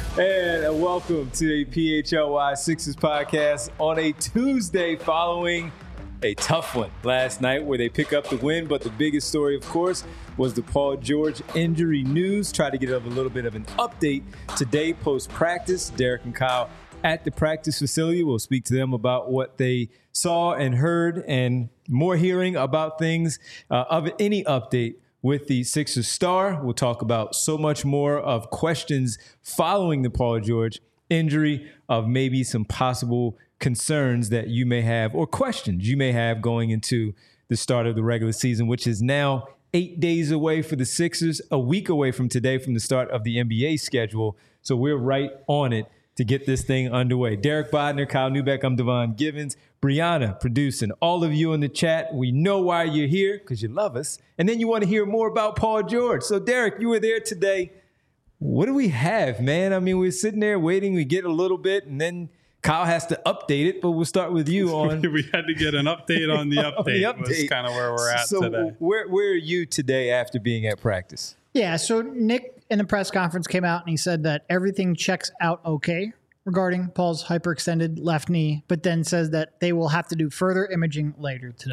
And welcome to the PHLY Sixers podcast on a Tuesday following a tough one last night where they pick up the win. But the biggest story, of course, was the Paul George injury news. Try to get a little bit of an update today post-practice. Derek and Kyle at the practice facility. We'll speak to them about what they saw and heard and more hearing about things of any update with the Sixers star. We'll talk about so much more of questions following the Paul George injury, of maybe some possible concerns that you may have or questions you may have going into the start of the regular season, which is now 8 days away for the Sixers, a week away from today from the start of the NBA schedule. So we're right on it to get this thing underway. Derek Bodner, Kyle Neubeck, I'm Devon Givens, Brianna producing. All of you in the chat, we know why you're here, because you love us. And then you want to hear more about Paul George. So Derek, you were there today. What do we have, man? I mean, we're sitting there waiting. We get a little bit, and then Kyle has to update it, but we'll start with you on. We had to get an update on the update. Was kind of where we're at today. Where are you today after being at practice? Yeah, so Nick in the press conference came out and he said that everything checks out okay regarding Paul's hyperextended left knee, but then says that they will have to do further imaging later today,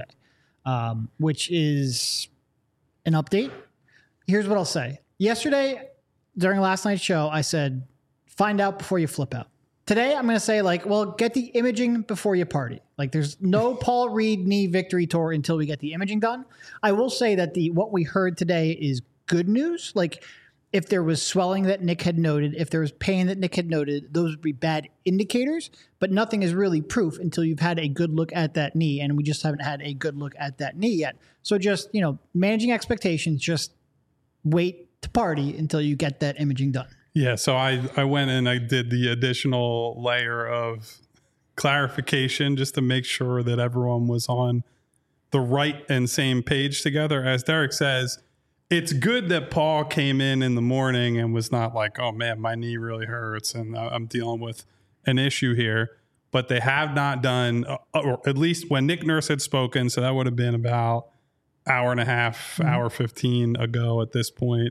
which is an update. Here's what I'll say. Yesterday, during last night's show, I said, find out before you flip out. Today, I'm going to say, get the imaging before you party. There's no Paul Reed knee victory tour until we get the imaging done. I will say that what we heard today is good news. If there was swelling that Nick had noted, if there was pain that Nick had noted, those would be bad indicators, but nothing is really proof until you've had a good look at that knee, and we just haven't had a good look at that knee yet. So just, managing expectations, just wait to party until you get that imaging done. Yeah, so I went and I did the additional layer of clarification just to make sure that everyone was on the right and same page together. As Derek says, it's good that Paul came in the morning and was not like, oh man, my knee really hurts and I'm dealing with an issue here. But they have not done, or at least when Nick Nurse had spoken, so that would have been about hour and a half, hour 15 ago at this point,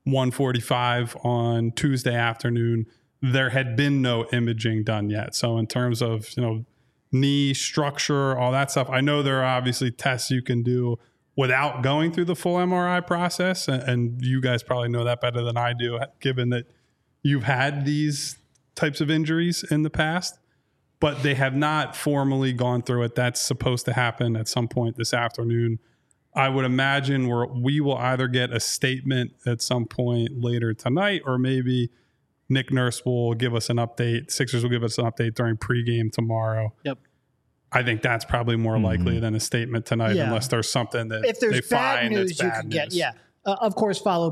1:45 on Tuesday afternoon, there had been no imaging done yet. So in terms of, knee structure, all that stuff, I know there are obviously tests you can do without going through the full MRI process. And you guys probably know that better than I do, given that you've had these types of injuries in the past, but they have not formally gone through it. That's supposed to happen at some point this afternoon. I would imagine we will either get a statement at some point later tonight, or maybe Nick Nurse will give us an update. Sixers will give us an update during pregame tomorrow. Yep. I think that's probably more likely than a statement tonight, unless there's something that if there's they bad find news, that's bad you can news. get. Yeah. Of course, follow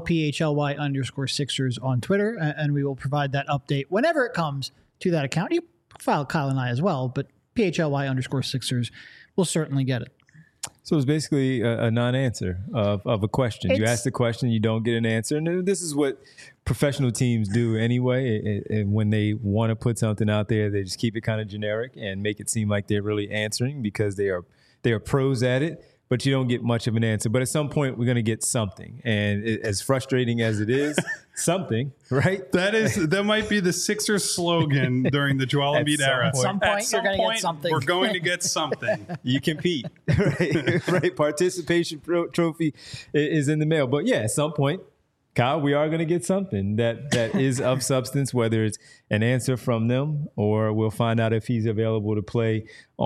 PHLY_Sixers on Twitter, and we will provide that update whenever it comes to that account. You follow Kyle and I as well, but PHLY_Sixers will certainly get it. So it's basically a non-answer of a question. You ask the question, you don't get an answer. And this is what professional teams do anyway. And when they want to put something out there, they just keep it kind of generic and make it seem like they're really answering because they are pros at it. But you don't get much of an answer. But at some point, we're going to get something. And as frustrating as it is, something, right? That might be the Sixers slogan during the Joel Embiid era. At some point, you're going to get something. We're going to get something. You compete, right? Participation trophy is in the mail. But yeah, at some point, Kyle, we are going to get something that is of substance, whether it's an answer from them or we'll find out if he's available to play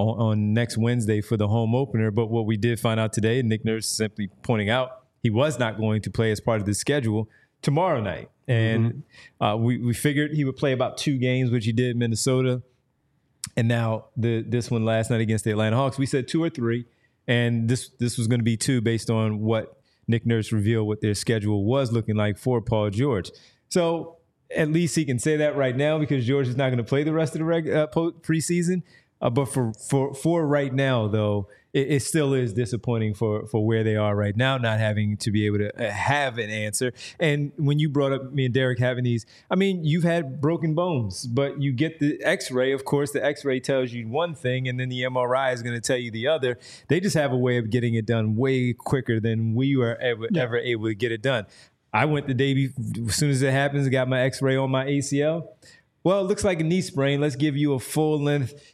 on next Wednesday for the home opener. But what we did find out today, Nick Nurse simply pointing out he was not going to play as part of the schedule tomorrow night. And we figured he would play about 2 games, which he did in Minnesota. And now this one last night against the Atlanta Hawks, we said 2 or 3. And this was going to be 2 based on what Nick Nurse revealed what their schedule was looking like for Paul George. So at least he can say that right now because George is not going to play the rest of the preseason. But for right now, though, it still is disappointing for where they are right now, not having to be able to have an answer. And when you brought up me and Derek having these, I mean, you've had broken bones, but you get the x-ray. Of course, the x-ray tells you one thing, and then the MRI is going to tell you the other. They just have a way of getting it done way quicker than we were ever able to get it done. I went the day as soon as it happens, got my x-ray on my ACL. Well, it looks like a knee sprain. Let's give you a full-length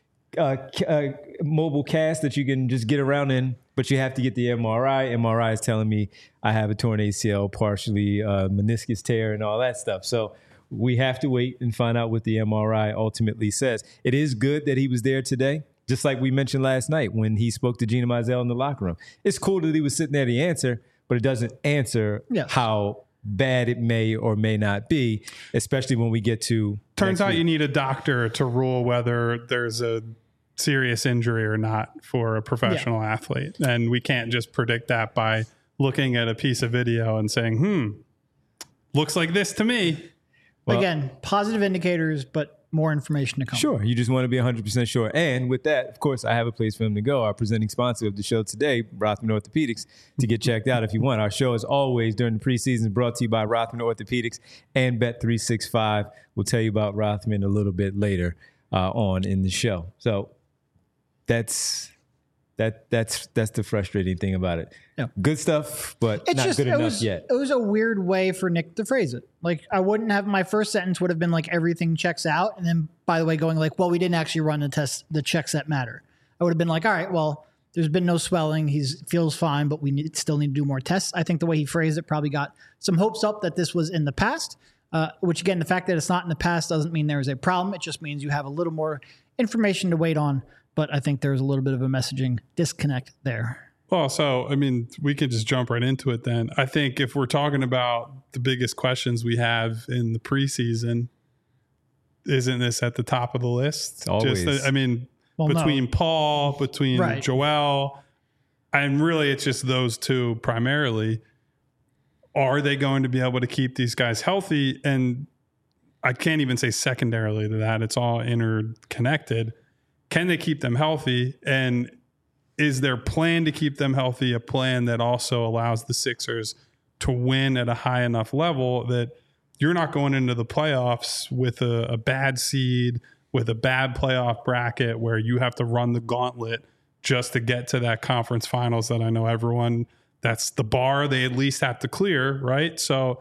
mobile cast that you can just get around in, but you have to get the MRI. MRI is telling me I have a torn ACL, partially meniscus tear and all that stuff. So we have to wait and find out what the MRI ultimately says. It is good that he was there today, just like we mentioned last night when he spoke to Gina Mizell in the locker room. It's cool that he was sitting there to answer, but it doesn't answer how bad it may or may not be, especially when we get to Turns out you need a doctor to rule whether there's a serious injury or not for a professional athlete. And we can't just predict that by looking at a piece of video and saying, looks like this to me. Well, again, positive indicators, but more information to come. Sure. You just want to be 100% sure. And with that, of course, I have a place for him to go. Our presenting sponsor of the show today, Rothman Orthopedics, to get checked out if you want. Our show, as always, during the preseason, brought to you by Rothman Orthopedics and Bet365. We'll tell you about Rothman a little bit later on in the show. So that's the frustrating thing about it. Yeah. Good stuff, but it's not good enough yet. It was a weird way for Nick to phrase it. Like, I wouldn't have, my first sentence would have been like, everything checks out. And then, by the way, going like, well, we didn't actually run the test, the checks that matter. I would have been like, all right, well, there's been no swelling. He feels fine, but we still need to do more tests. I think the way he phrased it probably got some hopes up that this was in the past, which again, the fact that it's not in the past doesn't mean there is a problem. It just means you have a little more information to wait on. But I think there's a little bit of a messaging disconnect there. Well, so, I mean, we could just jump right into it then. I think if we're talking about the biggest questions we have in the preseason, isn't this at the top of the list? Always. Between Paul, between Joel, and really it's just those two primarily. Are they going to be able to keep these guys healthy? And I can't even say secondarily to that. It's all interconnected. Can they keep them healthy? And is their plan to keep them healthy a plan that also allows the Sixers to win at a high enough level that you're not going into the playoffs with a bad seed, with a bad playoff bracket where you have to run the gauntlet just to get to that conference finals that I know everyone, that's the bar they at least have to clear, right? So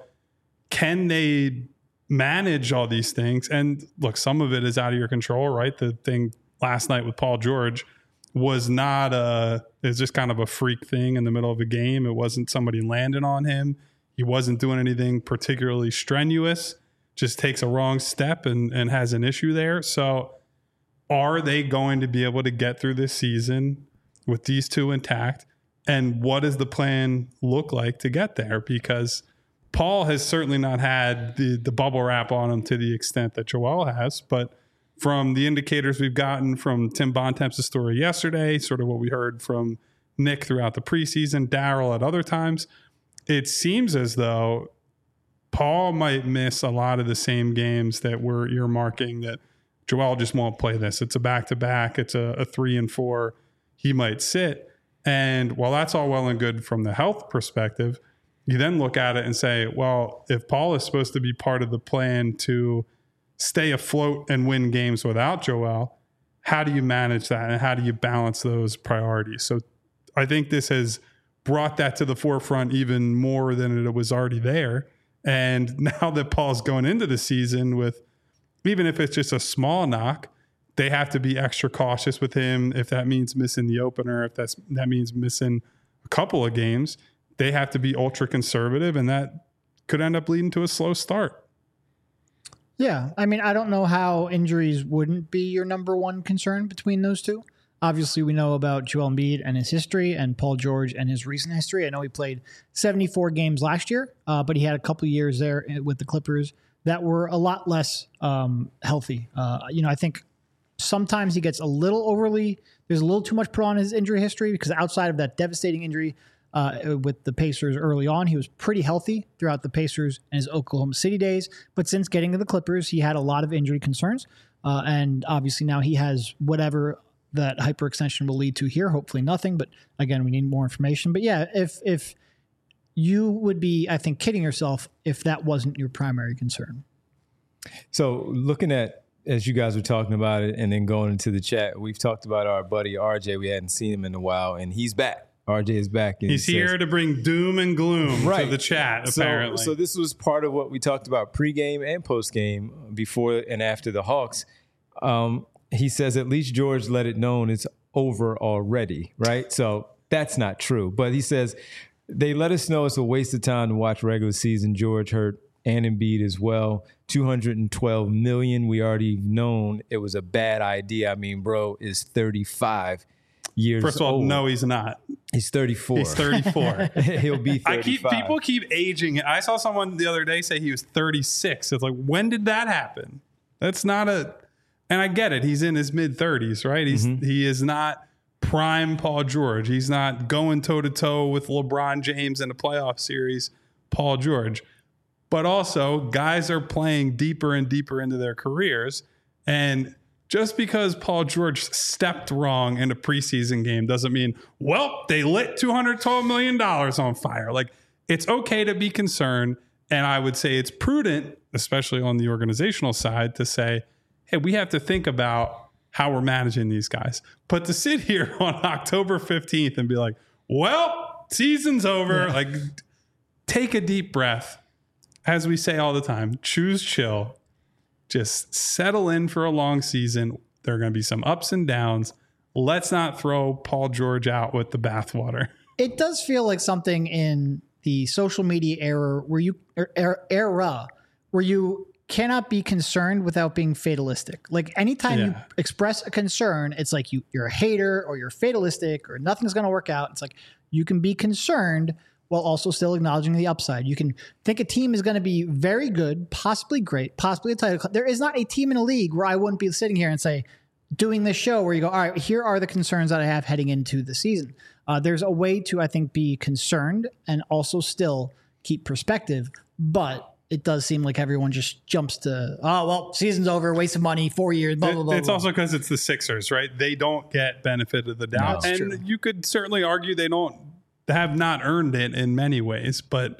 can they manage all these things? And look, some of it is out of your control, right? The thing last night with Paul George was not it's just kind of a freak thing in the middle of a game. It wasn't somebody landing on him. He wasn't doing anything particularly strenuous, just takes a wrong step and has an issue there. So are they going to be able to get through this season with these two intact? And what does the plan look like to get there? Because Paul has certainly not had the bubble wrap on him to the extent that Joel has, but from the indicators we've gotten from Tim Bontemps' story yesterday, sort of what we heard from Nick throughout the preseason, Daryl at other times, it seems as though Paul might miss a lot of the same games that we're earmarking that Joel just won't play this. It's a back-to-back. It's a 3 and 4. He might sit. And while that's all well and good from the health perspective, you then look at it and say, well, if Paul is supposed to be part of the plan to stay afloat and win games without Joel, how do you manage that? And how do you balance those priorities? So I think this has brought that to the forefront even more than it was already there. And now that Paul's going into the season with, even if it's just a small knock, they have to be extra cautious with him. If that means missing the opener, if that means missing a couple of games, they have to be ultra conservative, and that could end up leading to a slow start. Yeah. I mean, I don't know how injuries wouldn't be your number one concern between those two. Obviously, we know about Joel Embiid and his history and Paul George and his recent history. I know he played 74 games last year, but he had a couple of years there with the Clippers that were a lot less healthy. I think sometimes he gets there's a little too much put on his injury history, because outside of that devastating injury with the Pacers early on, he was pretty healthy throughout the Pacers and his Oklahoma City days. But since getting to the Clippers, he had a lot of injury concerns. And obviously now he has whatever that hyperextension will lead to here. Hopefully nothing. But again, we need more information. But yeah, if you would be, I think, kidding yourself if that wasn't your primary concern. So looking at, as you guys were talking about it and then going into the chat, we've talked about our buddy RJ. We hadn't seen him in a while, and he's back. RJ is back. And He's here to bring doom and gloom to the chat, apparently. So this was part of what we talked about pregame and postgame, before and after the Hawks. He says at least George let it known it's over already, right? So that's not true. But he says they let us know it's a waste of time to watch regular season. George hurt and Embiid as well. $212 million. We already known it was a bad idea. I mean, bro is 35 years old. First of all, no, he's not. He's 34. He's 34. He'll be 35. People keep aging. I saw someone the other day say he was 36. It's like, when did that happen? That's not and I get it. He's in his mid 30s, right? He is not prime Paul George. He's not going toe to toe with LeBron James in a playoff series, Paul George. But also, guys are playing deeper and deeper into their careers. And just because Paul George stepped wrong in a preseason game doesn't mean, well, they lit $212 million on fire. Like, it's okay to be concerned. And I would say it's prudent, especially on the organizational side, to say, hey, we have to think about how we're managing these guys. But to sit here on October 15th and be like, well, season's over. Like, take a deep breath. As we say all the time, choose chill. Just settle in for a long season. There are going to be some ups and downs. Let's not throw Paul George out with the bathwater. It does feel like something in the social media era where you cannot be concerned without being fatalistic. Like, anytime you express a concern, it's like you're a hater or you're fatalistic or nothing's going to work out. It's like you can be concerned while also still acknowledging the upside. You can think a team is going to be very good, possibly great, possibly a title. There is not a team in a league where I wouldn't be sitting here and say, doing this show where you go, all right, here are the concerns that I have heading into the season. There's a way to, I think, be concerned and also still keep perspective. But it does seem like everyone just jumps to, oh, well, season's over, waste of money, 4 years, blah, blah, blah. It's also because it's the Sixers, right? They don't get benefit of the doubt. No, and true. You could certainly argue they have not earned it in many ways, but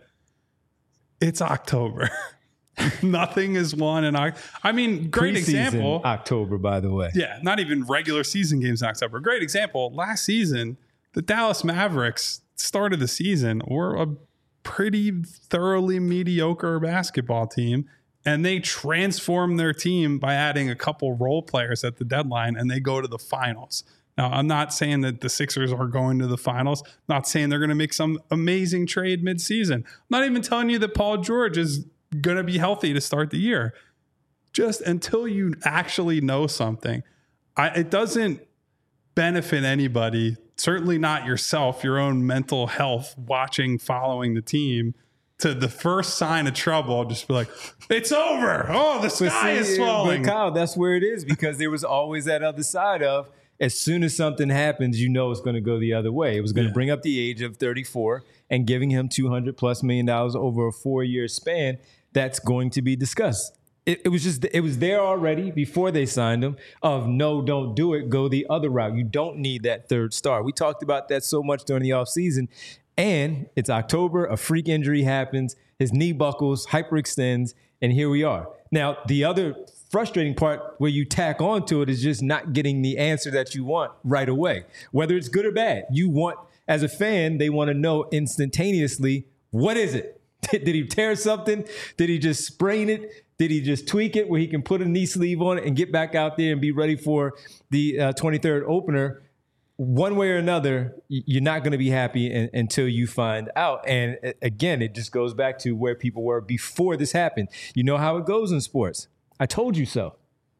it's October. Nothing is won in October. I mean, great Preseason example. October, by the way. Yeah, not even regular season games in October. Great example. Last season, the Dallas Mavericks started the season were a pretty thoroughly mediocre basketball team, and they transformed their team by adding a couple role players at the deadline, and they go to the finals. Now, I'm not saying that the Sixers are going to the finals. I'm not saying they're going to make some amazing trade midseason. I'm not even telling you that Paul George is going to be healthy to start the year. Just until you actually know something, it doesn't benefit anybody, certainly not yourself, your own mental health, following the team, to the first sign of trouble, just be like, it's over. Oh, the sky is falling. But Kyle, that's where it is, because there was always that other side of, as soon as something happens, you know it's going to go the other way. It was going to bring up the age of 34 and giving him $200+ million over a 4-year span. That's going to be discussed. It was there already before they signed him of, no, don't do it. Go the other route. You don't need that third star. We talked about that so much during the offseason. And it's October. A freak injury happens. His knee buckles, hyperextends, and here we are. Now, the other frustrating part where you tack onto it is just not getting the answer that you want right away, whether it's good or bad. You want, as a fan, they want to know instantaneously, what is it? Did he tear something? Did he just sprain it? Did he just tweak it where he can put a knee sleeve on it and get back out there and be ready for the 23rd opener? One way or another, you're not going to be happy until you find out. And again, it just goes back to where people were before this happened. You know how it goes in sports. I told you so.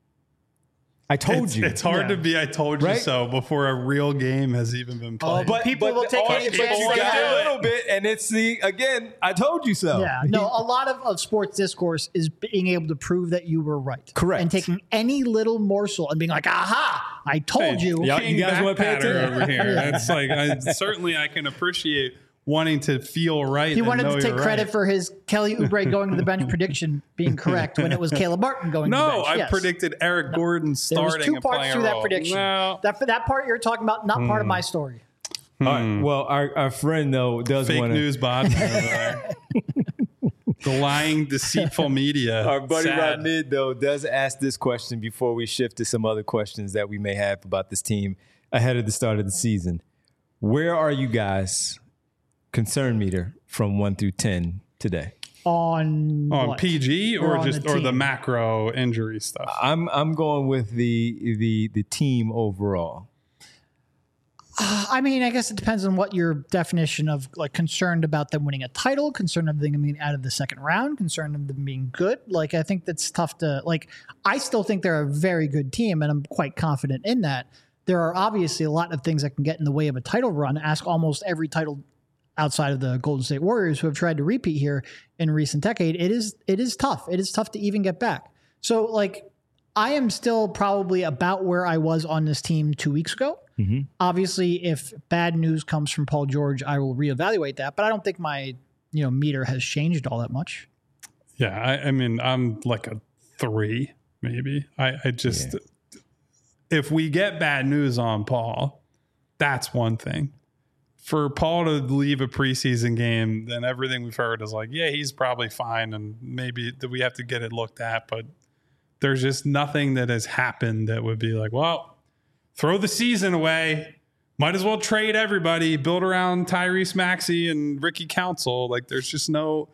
I told you. It's hard to be I told you so before a real game has even been played. But people will take any chance you they got have. a little bit, and it's again, I told you so. Yeah, no, a lot of sports discourse is being able to prove that you were right. Correct. And taking any little morsel and being like, aha, I told you. Yeah. King You guys wanna pay backpatter attention? over here. That's like, certainly I can appreciate wanting to feel right. He wanted and know to take you're credit right. for his Kelly Oubre going to the bench prediction being correct when it was Caleb Martin going to the bench. No, I Yes. predicted Eric Gordon There was starting 2 and parts playing to a that role. prediction. No. That part you're talking about, not part of my story. All right. Well, our friend, though, does Fake want to. news bot over there. The lying, deceitful media. Our buddy Sad. Rod Mid, though, does ask this question before we shift to some other questions that we may have about this team ahead of the start of the season. Where are you guys? Concern meter from 1 through 10 today. On what? PG or just the the macro injury stuff? I'm going with the team overall. I mean, I guess it depends on what your definition of like concerned about them winning a title, concerned of them being out of the second round, concerned of them being good. Like, I think that's tough to like. I still think they're a very good team, and I'm quite confident in that. There are obviously a lot of things that can get in the way of a title run. Ask almost every title outside of the Golden State Warriors who have tried to repeat here in recent decade. It is tough. It is tough to even get back. So, like, I am still probably about where I was on this team 2 weeks ago. Mm-hmm. Obviously, if bad news comes from Paul George, I will reevaluate that. But I don't think my meter has changed all that much. Yeah, I mean, I'm like a 3, maybe. I just if we get bad news on Paul, that's one thing. For Paul to leave a preseason game, then everything we've heard is like, yeah, he's probably fine, and maybe we have to get it looked at. But there's just nothing that has happened that would be like, well, throw the season away. Might as well trade everybody, build around Tyrese Maxey and Ricky Council. Like, there's just no.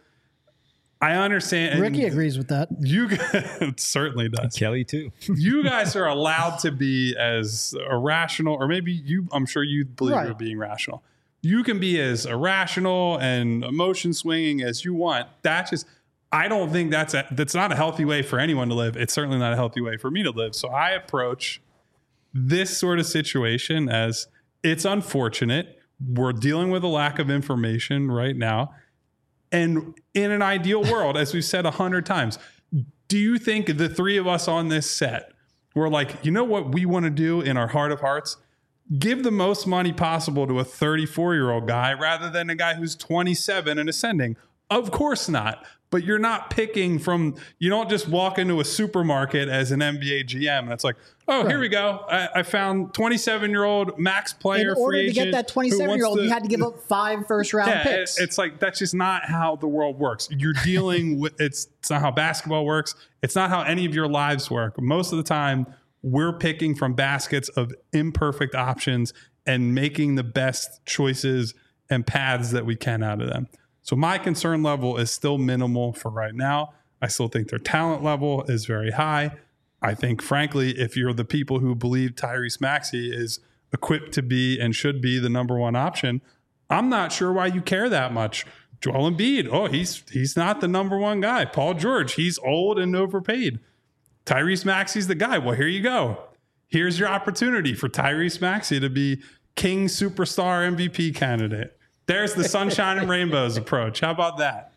I understand. Ricky agrees with that. You it certainly does. Kelly too. You guys are allowed to be as irrational, or maybe you. I'm sure you believe you're being rational. You can be as irrational and emotion swinging as you want. That's just. I don't think that's not a healthy way for anyone to live. It's certainly not a healthy way for me to live. So I approach this sort of situation as it's unfortunate. We're dealing with a lack of information right now. And in an ideal world, as we've said 100 times, do you think the three of us on this set were like, you know what we want to do in our heart of hearts? Give the most money possible to a 34-year-old guy rather than a guy who's 27 and ascending. Of course not. But you're not picking from, you don't just walk into a supermarket as an NBA GM and it's like, oh, here we go. I found 27-year-old max player. In order free to get that 27-year-old, you had to give up 5 first-round picks. It's like, that's just not how the world works. You're dealing with, it's not how basketball works. It's not how any of your lives work. Most of the time, we're picking from baskets of imperfect options and making the best choices and paths that we can out of them. So my concern level is still minimal for right now. I still think their talent level is very high. I think, frankly, if you're the people who believe Tyrese Maxey is equipped to be and should be the number one option, I'm not sure why you care that much. Joel Embiid, oh, he's not the number one guy. Paul George, he's old and overpaid. Tyrese Maxey's the guy. Well, here you go. Here's your opportunity for Tyrese Maxey to be King Superstar MVP candidate. There's the sunshine and rainbows approach. How about that?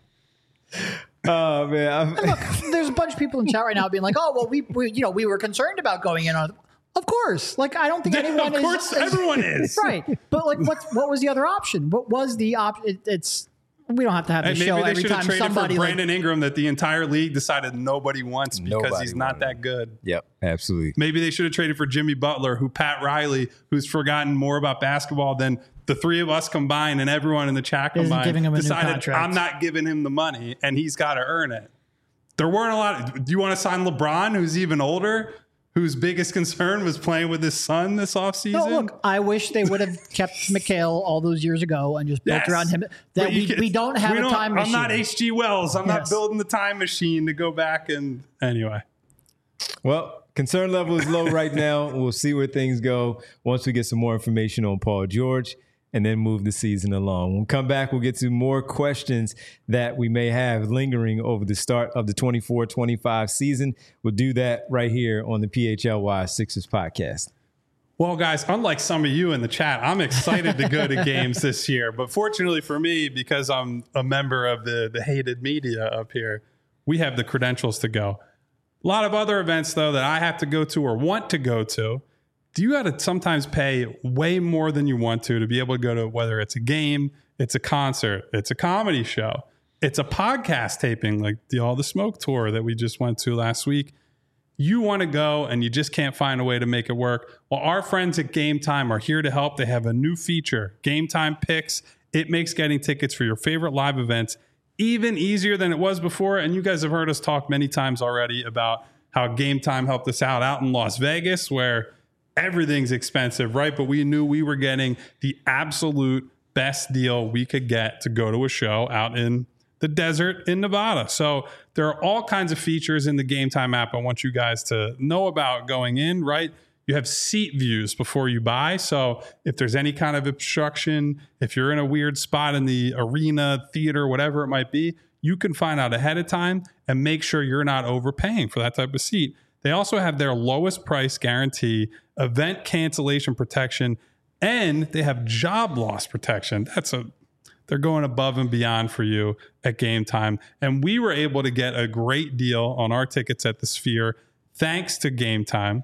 Oh man! Look, there's a bunch of people in chat right now being like, "Oh, well, we were concerned about going in on." Of course, like I don't think anyone is. Of course, everyone is right. But like, what was the other option? What was the option? It's we don't have to have the show every time somebody. Maybe they should have traded for Brandon Ingram that the entire league decided nobody wants because he's not that good. Yep, absolutely. Maybe they should have traded for Jimmy Butler, who Pat Riley, who's forgotten more about basketball than the three of us combined and everyone in the chat combined, decided I'm not giving him the money and he's got to earn it. There weren't a lot. Do you want to sign LeBron, who's even older, whose biggest concern was playing with his son this offseason? No, look, I wish they would have kept McHale all those years ago and just built around him. That we don't have a time machine. I'm not H.G. Wells. I'm not building the time machine to go back and anyway. Well, concern level is low right now. We'll see where things go once we get some more information on Paul George and then move the season along. When we come back, we'll get to more questions that we may have lingering over the start of the 24-25 season. We'll do that right here on the PHLY Sixers podcast. Well, guys, unlike some of you in the chat, I'm excited to go to games this year. But fortunately for me, because I'm a member of the hated media up here, we have the credentials to go. A lot of other events, though, that I have to go to or want to go to, you got to sometimes pay way more than you want to be able to go to, whether it's a game, it's a concert, it's a comedy show, it's a podcast taping like the All the Smoke tour that we just went to last week. You want to go and you just can't find a way to make it work. Well, our friends at Game Time are here to help. They have a new feature, Game Time Picks. It makes getting tickets for your favorite live events even easier than it was before. And you guys have heard us talk many times already about how Game Time helped us out in Las Vegas, where everything's expensive, right? But we knew we were getting the absolute best deal we could get to go to a show out in the desert in Nevada. So there are all kinds of features in the Game Time app I want you guys to know about going in, right? You have seat views before you buy. So if there's any kind of obstruction, if you're in a weird spot in the arena, theater, whatever it might be, you can find out ahead of time and make sure you're not overpaying for that type of seat. They also have their lowest price guarantee, event cancellation protection, and they have job loss protection. They're going above and beyond for you at Game Time. And we were able to get a great deal on our tickets at the Sphere thanks to Game Time.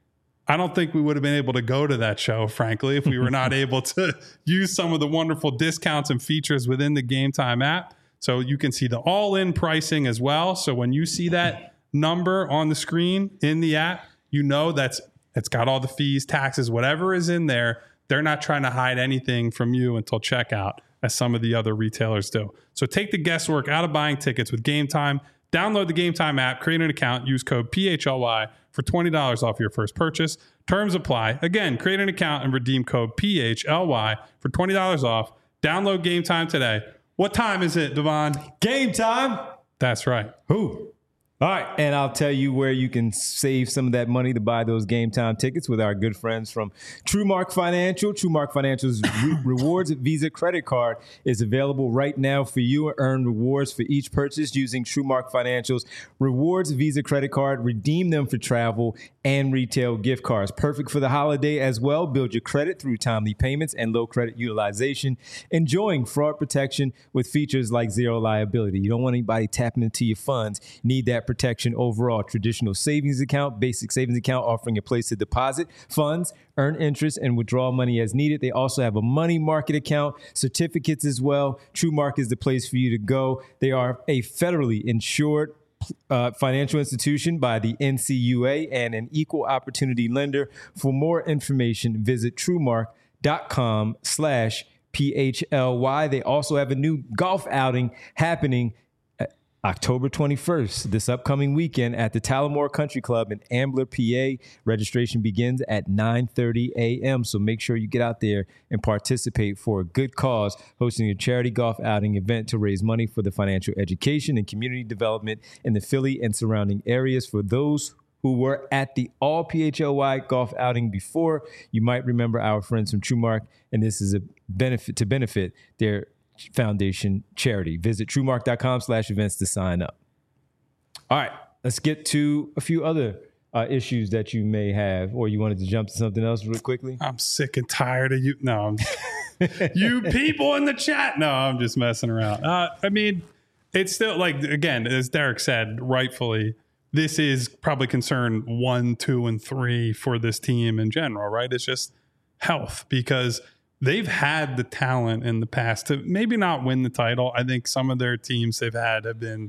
I don't think we would have been able to go to that show, frankly, if we were not able to use some of the wonderful discounts and features within the Game Time app. So you can see the all-in pricing as well. So when you see that number on the screen in the app, you know it's got all the fees, taxes, whatever is in there. They're not trying to hide anything from you until checkout, as some of the other retailers do. So take the guesswork out of buying tickets with Game Time. Download the Game Time app, create an account, use code PHLY for $20 off your first purchase. Terms apply. Again, create an account and redeem code PHLY for $20 off. Download Game Time today. What time is it, Devon? Game time. That's right. Who? All right, and I'll tell you where you can save some of that money to buy those Game Time tickets with our good friends from TrueMark Financial. TrueMark Financial's Rewards Visa credit card is available right now for you. Earn rewards for each purchase using TrueMark Financial's Rewards Visa credit card. Redeem them for travel and retail gift cards. Perfect for the holiday as well. Build your credit through timely payments and low credit utilization. Enjoying fraud protection with features like zero liability. You don't want anybody tapping into your funds. You need that protection overall. Traditional savings account, basic savings account offering a place to deposit funds, earn interest, and withdraw money as needed. They also have a money market account, certificates as well. TrueMark is the place for you to go. They are a federally insured financial institution by the NCUA and an equal opportunity lender. For more information, visit TrueMark.com/PHLY. They also have a new golf outing happening October 21st, this upcoming weekend at the Talamore Country Club in Ambler, PA. Registration begins at 9:30 a.m. So make sure you get out there and participate for a good cause, hosting a charity golf outing event to raise money for the financial education and community development in the Philly and surrounding areas. For those who were at the all PHLY golf outing before, you might remember our friends from TrueMark, and this is a benefit to benefit their foundation charity. Visit TrueMark.com/events to sign up. All right, let's get to a few other issues that you may have, or you wanted to jump to something else real quickly. I'm sick and tired of you. No, you people in the chat. No, I'm just messing around. I mean, it's still like, again, as Derek said, rightfully, this is probably concern 1, 2, and 3 for this team in general, right? It's just health, because they've had the talent in the past to maybe not win the title. I think some of their teams they've had have been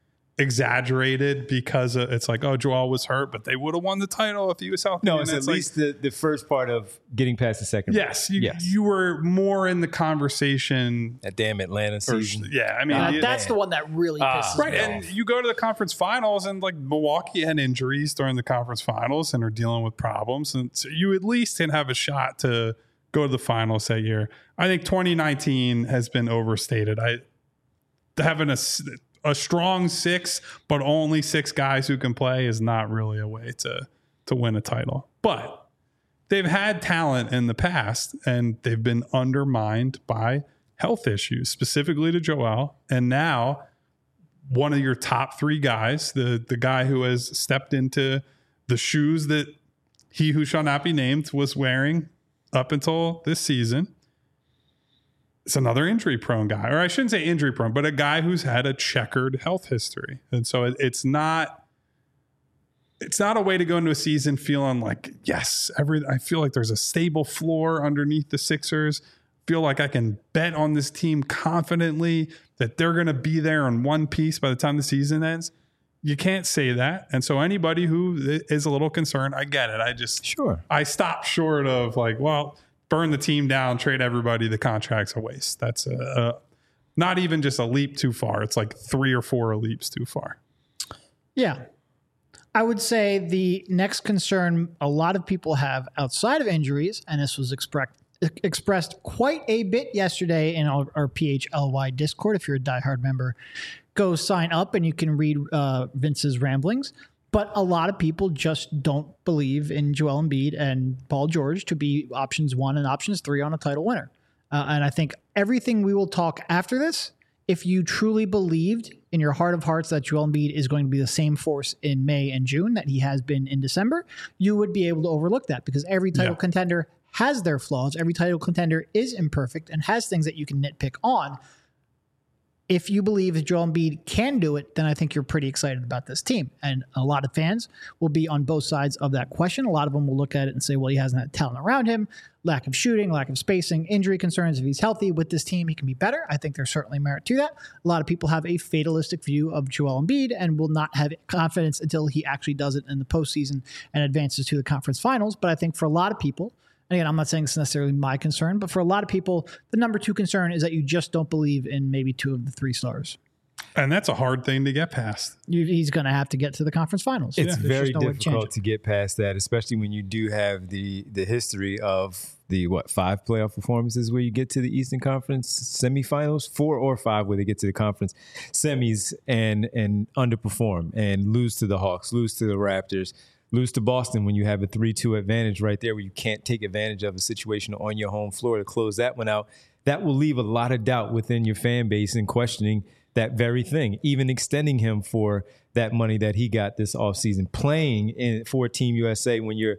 exaggerated because it's like, oh, Joel was hurt, but they would have won the title if he was healthy. No, it's at least the first part of getting past the second round. Yes, you were more in the conversation. That damn Atlanta season. Yeah, I mean, that's the one that really pisses me off. And you go to the conference finals, and like Milwaukee had injuries during the conference finals and are dealing with problems, and so you at least can have a shot to go to the finals that year. I think 2019 has been overstated. Having a strong 6, but only 6 guys who can play is not really a way to win a title. But they've had talent in the past, and they've been undermined by health issues, specifically to Joel. And now one of your top 3 guys, the guy who has stepped into the shoes that he who shall not be named was wearing up until this season, it's another injury-prone guy. Or I shouldn't say injury-prone, but a guy who's had a checkered health history. And so it's not a way to go into a season feeling like, yes, I feel like there's a stable floor underneath the Sixers. Feel like I can bet on this team confidently that they're going to be there in one piece by the time the season ends. You can't say that. And so anybody who is a little concerned, I get it. I stop short of like, well, burn the team down, trade everybody. The contract's a waste. That's not even just a leap too far. It's like 3 or 4 leaps too far. Yeah. I would say the next concern a lot of people have outside of injuries, and this was expressed quite a bit yesterday in our PHLY Discord. If you're a diehard member, go sign up and you can read Vince's ramblings. But a lot of people just don't believe in Joel Embiid and Paul George to be options 1 and options 3 on a title winner. And I think everything we will talk after this, if you truly believed in your heart of hearts that Joel Embiid is going to be the same force in May and June that he has been in December, you would be able to overlook that, because every title contender has their flaws. Every title contender is imperfect and has things that you can nitpick on. If you believe that Joel Embiid can do it, then I think you're pretty excited about this team. And a lot of fans will be on both sides of that question. A lot of them will look at it and say, well, he hasn't had talent around him, lack of shooting, lack of spacing, injury concerns. If he's healthy with this team, he can be better. I think there's certainly merit to that. A lot of people have a fatalistic view of Joel Embiid and will not have confidence until he actually does it in the postseason and advances to the conference finals. But I think for a lot of people, and again, I'm not saying it's necessarily my concern, but for a lot of people, the number 2 concern is that you just don't believe in maybe 2 of the 3 stars. And that's a hard thing to get past. He's going to have to get to the conference finals. It's very difficult to get past that, especially when you do have the history of the 5 playoff performances where you get to the Eastern Conference semifinals, 4 or 5 where they get to the conference semis and underperform and lose to the Hawks, lose to the Raptors, lose to Boston when you have a 3-2 advantage right there where you can't take advantage of a situation on your home floor to close that one out. That will leave a lot of doubt within your fan base and questioning that very thing, even extending him for that money that he got this offseason, playing for Team USA when you're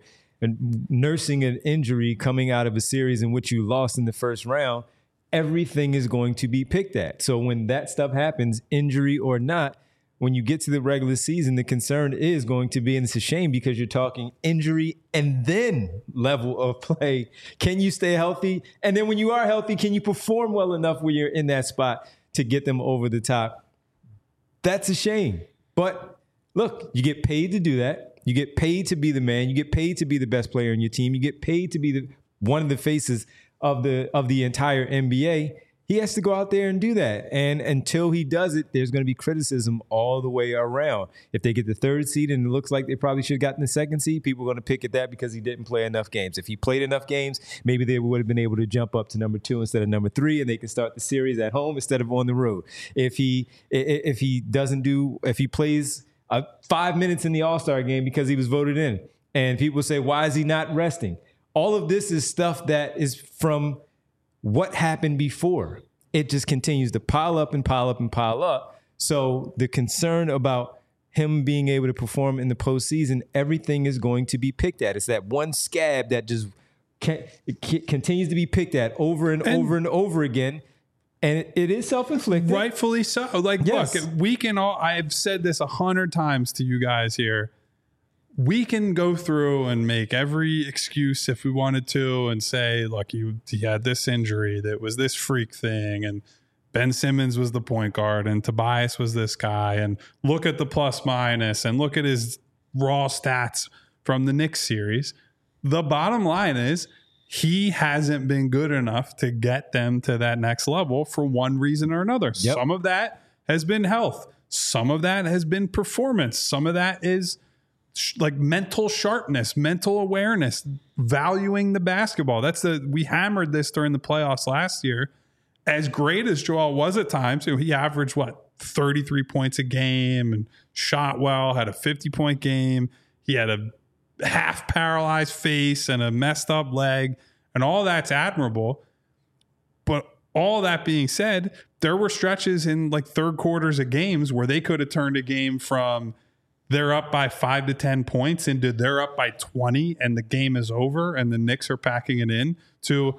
nursing an injury coming out of a series in which you lost in the first round. Everything is going to be picked at. So when that stuff happens, injury or not, when you get to the regular season, the concern is going to be, and it's a shame because you're talking injury and then level of play. Can you stay healthy? And then when you are healthy, can you perform well enough when you're in that spot to get them over the top? That's a shame. But look, you get paid to do that. You get paid to be the man. You get paid to be the best player in your team. You get paid to be one of the faces of the entire NBA. He has to go out there and do that. And until he does it, there's going to be criticism all the way around. If they get the 3rd seed and it looks like they probably should have gotten the 2nd seed, people are going to pick at that because he didn't play enough games. If he played enough games, maybe they would have been able to jump up to number 2 instead of number 3, and they can start the series at home instead of on the road. If he plays 5 minutes in the All-Star game because he was voted in, and people say, why is he not resting? All of this is stuff that is from what happened before. It just continues to pile up and pile up and pile up. So the concern about him being able to perform in the postseason, everything is going to be picked at. It's that one scab that just continues to be picked at over and over and over again. And it is self-inflicted. Rightfully so. Yes. Look, we can all, I've said this 100 times to you guys here. We can go through and make every excuse if we wanted to and say, look, he had this injury that was this freak thing, and Ben Simmons was the point guard and Tobias was this guy, and look at the plus minus and look at his raw stats from the Knicks series. The bottom line is he hasn't been good enough to get them to that next level for one reason or another. Yep. Some of that has been health. Some of that has been performance. Some of that is like mental sharpness, mental awareness, valuing the basketball. We hammered this during the playoffs last year. As great as Joel was at times, he averaged 33 points a game and shot well, had a 50-point game. He had a half paralyzed face and a messed up leg, and all that's admirable. But all that being said, there were stretches in third quarters of games where they could have turned a game from they're up by 5 to 10 points into they're up by 20 and the game is over and the Knicks are packing it in to,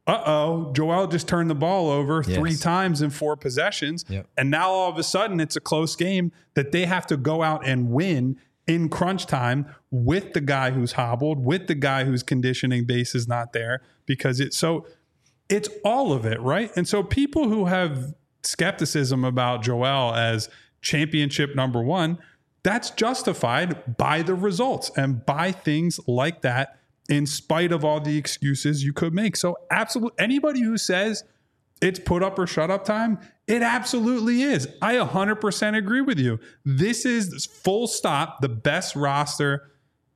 Joel just turned the ball over 3 times in 4 possessions. Yep. And now all of a sudden it's a close game that they have to go out and win in crunch time with the guy who's hobbled, with the guy whose conditioning base is not there, because it's all of it, right? And so people who have skepticism about Joel as championship number 1, that's justified by the results and by things like that, in spite of all the excuses you could make. So absolutely, anybody who says it's put up or shut up time It absolutely is. I 100% agree with you. This is full stop the best roster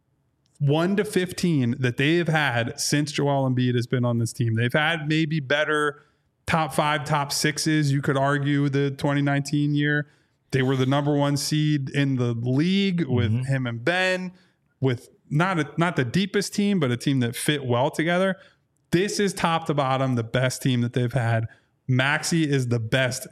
1 to 15 that they have had since Joel Embiid has been on this team. They've had maybe better top 5, top 6s. You could argue the 2019 year. They were the number 1 seed in the league with him and Ben, with not the deepest team, but a team that fit well together. This is top to bottom the best team that they've had. Maxey is the best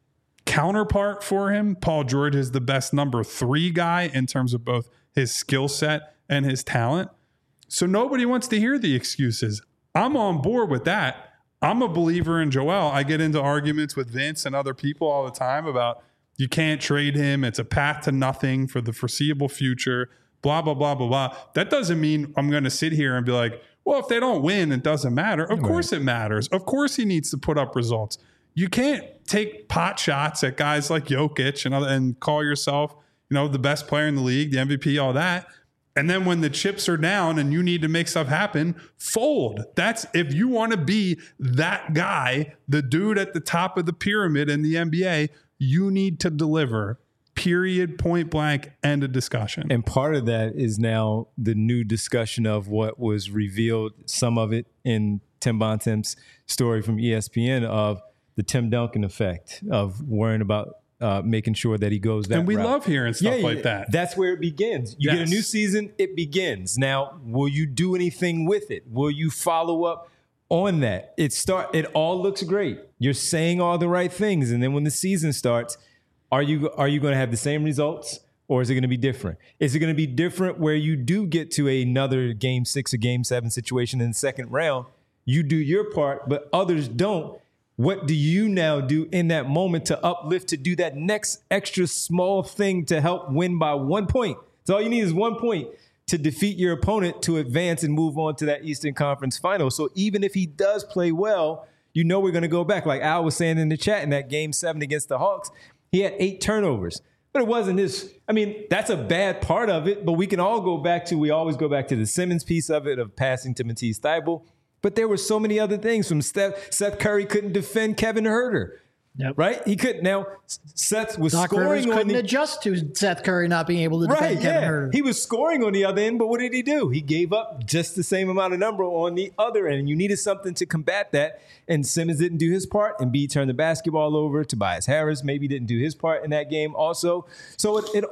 counterpart for him. Paul George is the best number 3 guy in terms of both his skill set and his talent. So nobody wants to hear the excuses. I'm on board with that. I'm a believer in Joel. I get into arguments with Vince and other people all the time about you can't trade him. It's a path to nothing for the foreseeable future, blah, blah, blah, blah, blah. That doesn't mean I'm going to sit here and be like, well, if they don't win, it doesn't matter. Of course it matters. Of course he needs to put up results. You can't take pot shots at guys like Jokic and call yourself, the best player in the league, the MVP, all that. And then when the chips are down and you need to make stuff happen, fold. That's if you want to be that guy, the dude at the top of the pyramid in the NBA, you need to deliver. Period, point blank, end of discussion. And part of that is now the new discussion of what was revealed, some of it in Tim Bontemps' story from ESPN of the Tim Duncan effect of worrying about making sure that he goes that route. And we love hearing stuff like that. That's where it begins. You get a new season, it begins. Now, will you do anything with it? Will you follow up on that? It all looks great. You're saying all the right things. And then when the season starts, are you going to have the same results, or is it going to be different? Is it going to be different where you do get to another game 6 or game 7 situation in the second round? You do your part, but others don't. What do you now do in that moment to uplift, to do that next extra small thing to help win by 1 point? So all you need is 1 point to defeat your opponent to advance and move on to that Eastern Conference final. So even if he does play well, we're going to go back. Like Al was saying in the chat in that game 7 against the Hawks, he had 8 turnovers, but it wasn't his. I mean, that's a bad part of it, but we can all we always go back to the Simmons piece of it, of passing to Matisse Thybulle. But there were so many other things from Seth Curry couldn't defend Kevin Huerter. Yep. Right? He couldn't. Now, Seth was Doc scoring Rivers couldn't adjust to Seth Curry not being able to defend Kevin Huerter. He was scoring on the other end, but what did he do? He gave up just the same amount of number on the other end. And you needed something to combat that. And Simmons didn't do his part. And B turned the basketball over. Tobias Harris maybe didn't do his part in that game also. So it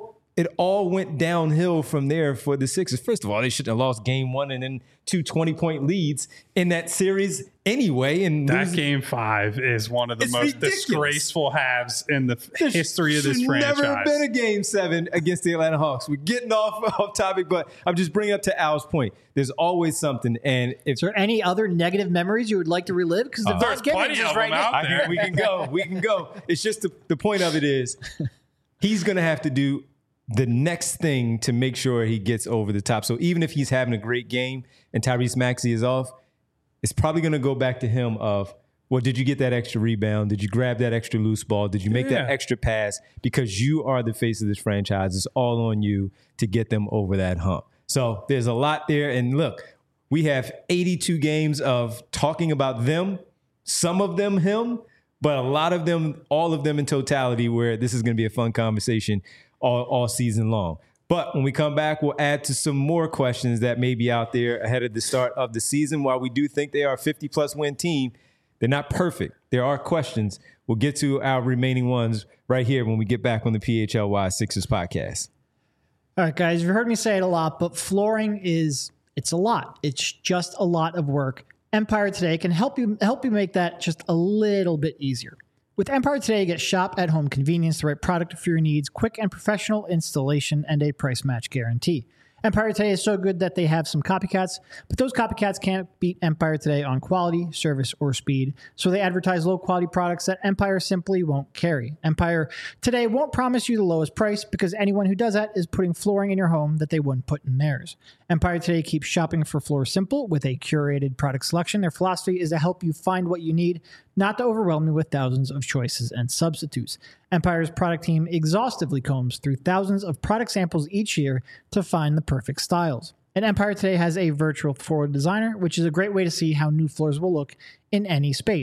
all went downhill from there for the Sixers. First of all, they shouldn't have lost game 1 and then 2 20-point leads in that series anyway. And that game 5 is one of the most disgraceful halves in the history of this franchise. There's never been a game 7 against the Atlanta Hawks. We're getting off topic, but I'm just bringing up to Al's point. There's always something. And is there any other negative memories you would like to relive? Because there's plenty of them out there. We can go. It's just the point of it is he's going to have to do the next thing to make sure he gets over the top. So even if he's having a great game and Tyrese Maxey is off, it's probably going to go back to him of, well, did you get that extra rebound? Did you grab that extra loose ball? Did you make that extra pass? Because you are the face of this franchise. It's all on you to get them over that hump. So there's a lot there. And look, we have 82 games of talking about them, some of them him, but a lot of them, all of them in totality, where this is going to be a fun conversation all season long. But when we come back, we'll add to some more questions that may be out there ahead of the start of the season. While we do think they are a 50-plus win team, they're not perfect. There are questions. We'll get to our remaining ones right here when we get back on the PHLY Sixers podcast. All right, guys, you've heard me say it a lot, but flooring it's a lot. It's just a lot of work. Empire Today can help you make that just a little bit easier. With Empire Today, get shop-at-home convenience, the right product for your needs, quick and professional installation, and a price match guarantee. Empire Today is so good that they have some copycats, but those copycats can't beat Empire Today on quality, service, or speed, so they advertise low-quality products that Empire simply won't carry. Empire Today won't promise you the lowest price because anyone who does that is putting flooring in your home that they wouldn't put in theirs. Empire Today keeps shopping for floors simple with a curated product selection. Their philosophy is to help you find what you need, not to overwhelm you with thousands of choices and substitutes. Empire's product team exhaustively combs through thousands of product samples each year to find the perfect styles. And Empire Today has a virtual floor designer, which is a great way to see how new floors will look in any space.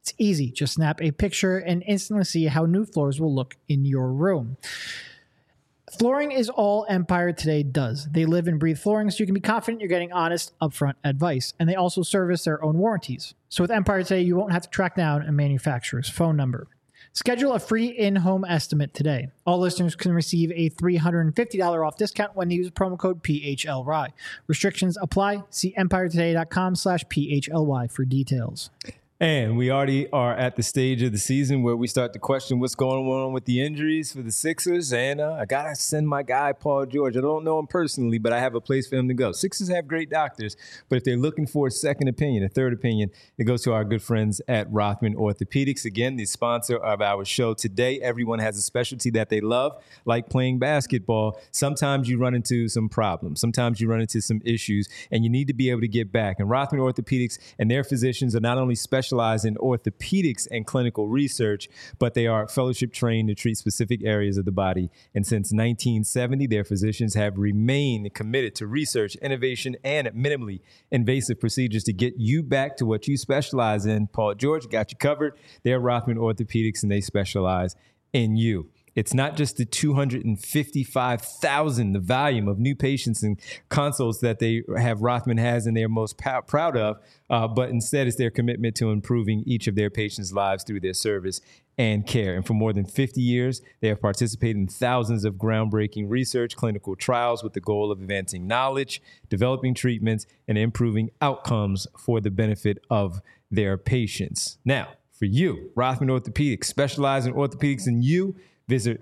It's easy. Just snap a picture and instantly see how new floors will look in your room. Flooring is all Empire Today does. They live and breathe flooring, so you can be confident you're getting honest, upfront advice. And they also service their own warranties. So with Empire Today, you won't have to track down a manufacturer's phone number. Schedule a free in-home estimate today. All listeners can receive a $350 off discount when they use promo code PHLY. Restrictions apply. See empiretoday.com/PHLY for details. And we already are at the stage of the season where we start to question what's going on with the injuries for the Sixers. And I got to send my guy, Paul George. I don't know him personally, but I have a place for him to go. Sixers have great doctors, but if they're looking for a second opinion, a third opinion, it goes to our good friends at Rothman Orthopedics. Again, the sponsor of our show today. Everyone has a specialty that they love, like playing basketball. Sometimes you run into some problems. Sometimes you run into some issues, and you need to be able to get back. And Rothman Orthopedics and their physicians are not only specialize in orthopedics and clinical research, but they are fellowship trained to treat specific areas of the body. And since 1970, their physicians have remained committed to research, innovation, and minimally invasive procedures to get you back to what you specialize in. Paul George got you covered. They're Rothman Orthopedics, and they specialize in you. It's not just the 255,000, the volume of new patients and consults that they have Rothman has and they're most proud of, but instead it's their commitment to improving each of their patients' lives through their service and care. And for more than 50 years, they have participated in thousands of groundbreaking research, clinical trials with the goal of advancing knowledge, developing treatments, and improving outcomes for the benefit of their patients. Now, for you, Rothman Orthopedics, specialize in orthopedics and you. Visit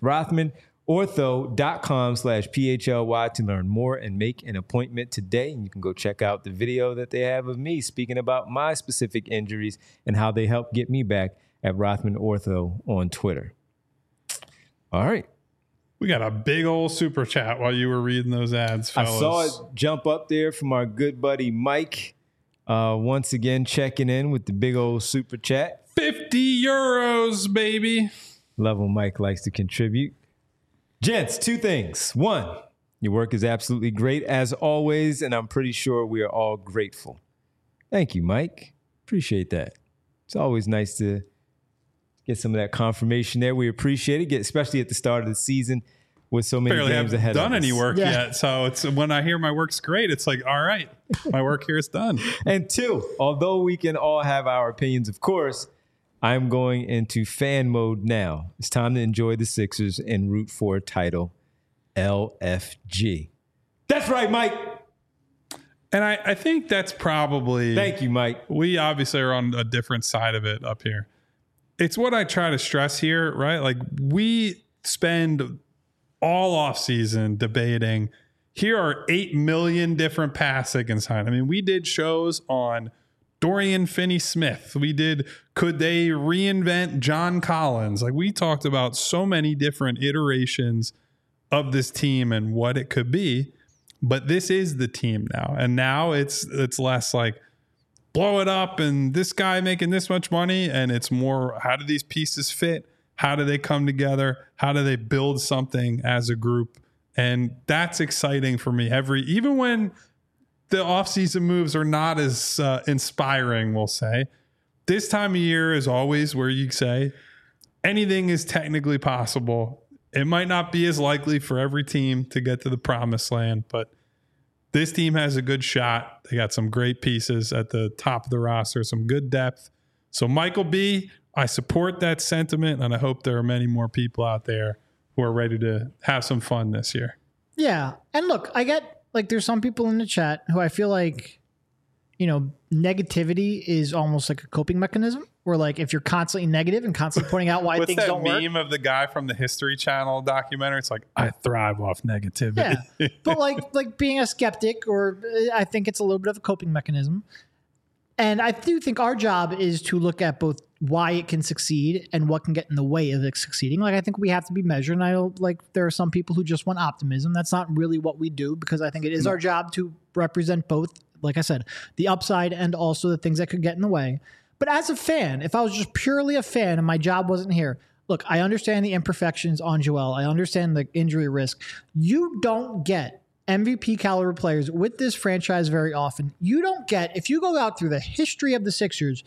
RothmanOrtho.com/PHLY to learn more and make an appointment today. And you can go check out the video that they have of me speaking about my specific injuries and how they help get me back at Rothman Ortho on Twitter. All right. We got a big old super chat while you were reading those ads, fellas. I saw it jump up there from our good buddy Mike. Once again, checking in with the big old super chat. 50 euros, baby. Love when Mike likes to contribute. Gents, two things. One, your work is absolutely great as always, and I'm pretty sure we are all grateful. Thank you, Mike. Appreciate that. It's always nice to get some of that confirmation there. We appreciate it, especially at the start of the season with so many games ahead of us. Barely haven't done any work yet, so it's when I hear my work's great, it's like, all right, my work here is done. And two, although we can all have our opinions, of course, I'm going into fan mode now. It's time to enjoy the Sixers and root for a title, LFG. That's right, Mike. And I think that's probably... Thank you, Mike. We obviously are on a different side of it up here. It's what I try to stress here, right? Like, we spend all offseason debating, here are 8 million different paths they can sign. I mean, we did shows on Dorian Finney-Smith. We did, could they reinvent John Collins? Like, we talked about so many different iterations of this team and what it could be, but this is the team now. And now it's less like blow it up and this guy making this much money. And it's more, how do these pieces fit? How do they come together? How do they build something as a group? And that's exciting for me. Even when the offseason moves are not as inspiring, we'll say, this time of year is always where you say anything is technically possible. It might not be as likely for every team to get to the promised land, but this team has a good shot. They got some great pieces at the top of the roster, some good depth. So Michael B., I support that sentiment, and I hope there are many more people out there who are ready to have some fun this year. Yeah. And look, I get, like, there's some people in the chat who I feel like, you know, negativity is almost like a coping mechanism, where, like, if you're constantly negative and constantly pointing out why things don't work. What's that meme of the guy from the History Channel documentary? It's like, I thrive off negativity. Yeah. But like being a skeptic, or I think it's a little bit of a coping mechanism. And I do think our job is to look at both why it can succeed and what can get in the way of it succeeding. Like, I think we have to be measured. And I don't, like, there are some people who just want optimism. That's not really what we do, because I think it is our job to represent both, like I said, the upside and also the things that could get in the way. But as a fan, if I was just purely a fan and my job wasn't here, look, I understand the imperfections on Joel. I understand the injury risk. You don't get MVP caliber players with this franchise very often. You don't get, if you go out through the history of the Sixers,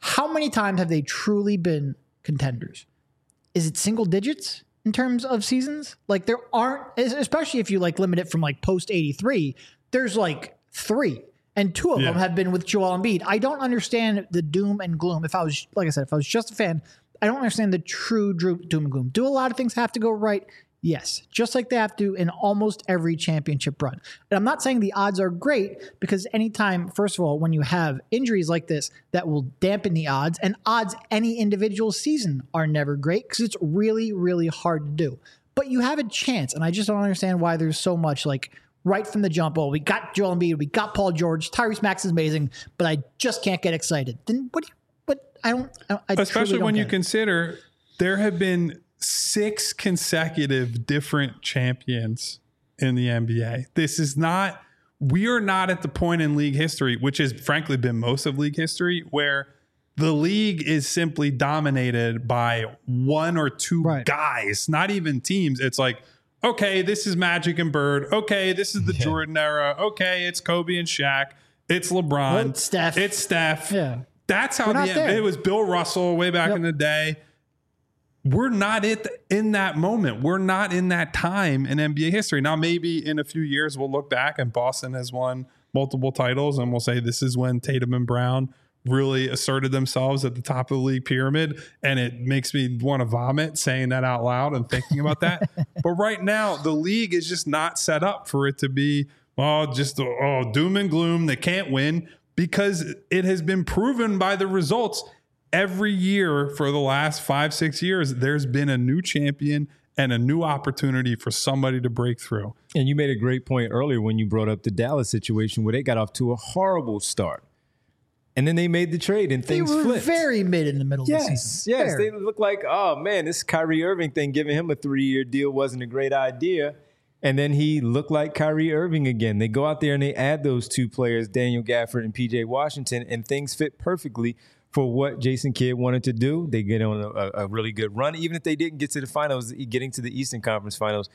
How many times have they truly been contenders? Is it single digits in terms of seasons? Like there aren't, especially if you like limit it from like post 83, there's like 3 and 2 of them have been with Joel Embiid. I don't understand the doom and gloom. If I was, like I said, if I was just a fan, I don't understand the true doom and gloom. Do a lot of things have to go right? Yes, just like they have to in almost every championship run. And I'm not saying the odds are great because anytime, first of all, when you have injuries like this, that will dampen the odds, and odds any individual season are never great because it's really, really hard to do. But you have a chance, and I just don't understand why there's so much like right from the jump. Oh, we got Joel Embiid, we got Paul George, Tyrese Maxey is amazing, but I just can't get excited. Then what? I especially when you consider there have been 6 consecutive different champions in the NBA. This is not, we are not at the point in league history, which has frankly been most of league history, where the league is simply dominated by 1 or 2 guys, not even teams. It's like, okay, this is Magic and Bird. Okay, this is the Jordan era. Okay, it's Kobe and Shaq. It's LeBron. It's Steph. Yeah. That's how it was Bill Russell way back in the day. We're not in that moment. We're not in that time in NBA history. Now, maybe in a few years, we'll look back and Boston has won multiple titles and we'll say this is when Tatum and Brown really asserted themselves at the top of the league pyramid. And it makes me want to vomit saying that out loud and thinking about that. But right now, the league is just not set up for it to be, doom and gloom. They can't win because it has been proven by the results. Every year for the last 5-6 years, there's been a new champion and a new opportunity for somebody to break through. And you made a great point earlier when you brought up the Dallas situation where they got off to a horrible start. And then they made the trade and things flipped. They were very mid in the middle of the season. Yes, they looked like, oh, man, this Kyrie Irving thing, giving him a 3-year deal wasn't a great idea. And then he looked like Kyrie Irving again. They go out there and they add those 2 players, Daniel Gafford and P.J. Washington, and things fit perfectly for what Jason Kidd wanted to do. They get on a really good run. Even if they didn't get to the finals, getting to the Western Conference Finals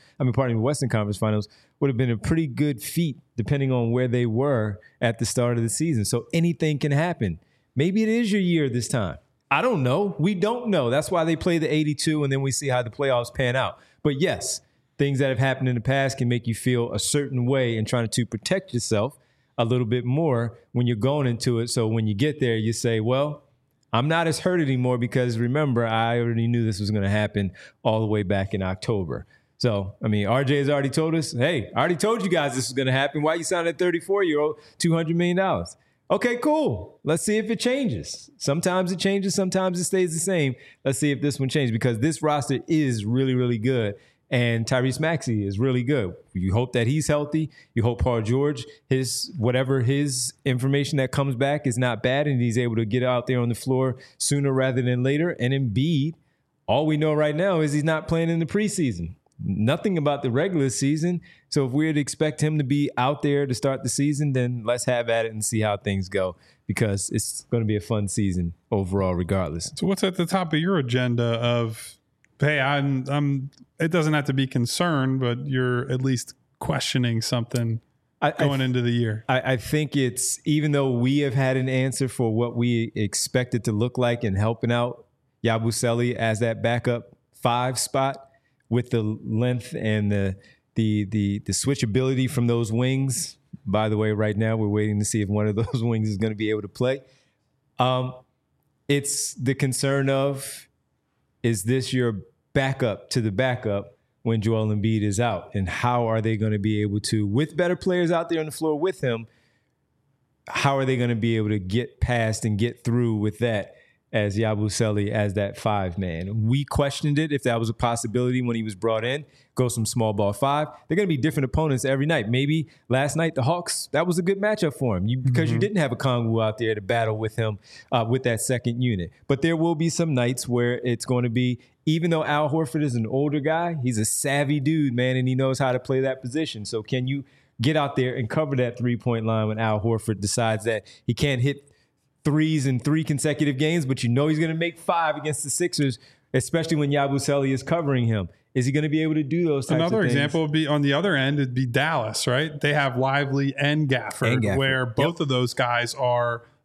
would have been a pretty good feat depending on where they were at the start of the season. So anything can happen. Maybe it is your year this time. I don't know. We don't know. That's why they play the 82 and then we see how the playoffs pan out. But yes, things that have happened in the past can make you feel a certain way and trying to protect yourself a little bit more when you're going into it. So when you get there, you say, well, I'm not as hurt anymore because remember, I already knew this was going to happen all the way back in October. So, I mean, RJ has already told us, hey, I already told you guys this was going to happen. Why you signing a 34-year-old $200 million? Okay, cool. Let's see if it changes. Sometimes it changes. Sometimes it stays the same. Let's see if this one changes because this roster is really, really good. And Tyrese Maxey is really good. You hope that he's healthy. You hope Paul George, his information that comes back is not bad and he's able to get out there on the floor sooner rather than later. And Embiid, all we know right now is he's not playing in the preseason. Nothing about the regular season. So if we'd expect him to be out there to start the season, then let's have at it and see how things go because it's going to be a fun season overall regardless. So what's at the top of your agenda of, hey, I'm it doesn't have to be concerned, but you're at least questioning something going into the year? I think it's, even though we have had an answer for what we expect it to look like in helping out Yabusele as that backup 5 spot with the length and the switchability from those wings. By the way, right now we're waiting to see if one of those wings is going to be able to play. It's the concern of, is this your backup to the backup when Joel Embiid is out? And how are they going to be able to, with better players out there on the floor with him, how are they going to be able to get past and get through with that as Yabusele as that 5-man? We questioned it if that was a possibility when he was brought in. Go some small ball 5. They're going to be different opponents every night. Maybe last night the Hawks, that was a good matchup for him because you didn't have a Kongwu out there to battle with him with that second unit. But there will be some nights where it's going to be, even though Al Horford is an older guy, he's a savvy dude, man, and he knows how to play that position. So can you get out there and cover that 3-point line when Al Horford decides that he can't hit threes in 3 consecutive games, but you know he's going to make 5 against the Sixers, especially when Yabusele is covering him? Is he going to be able to do those types of things? Another example would be on the other end, it'd be Dallas, right? They have Lively and Gafford, where both of those guys are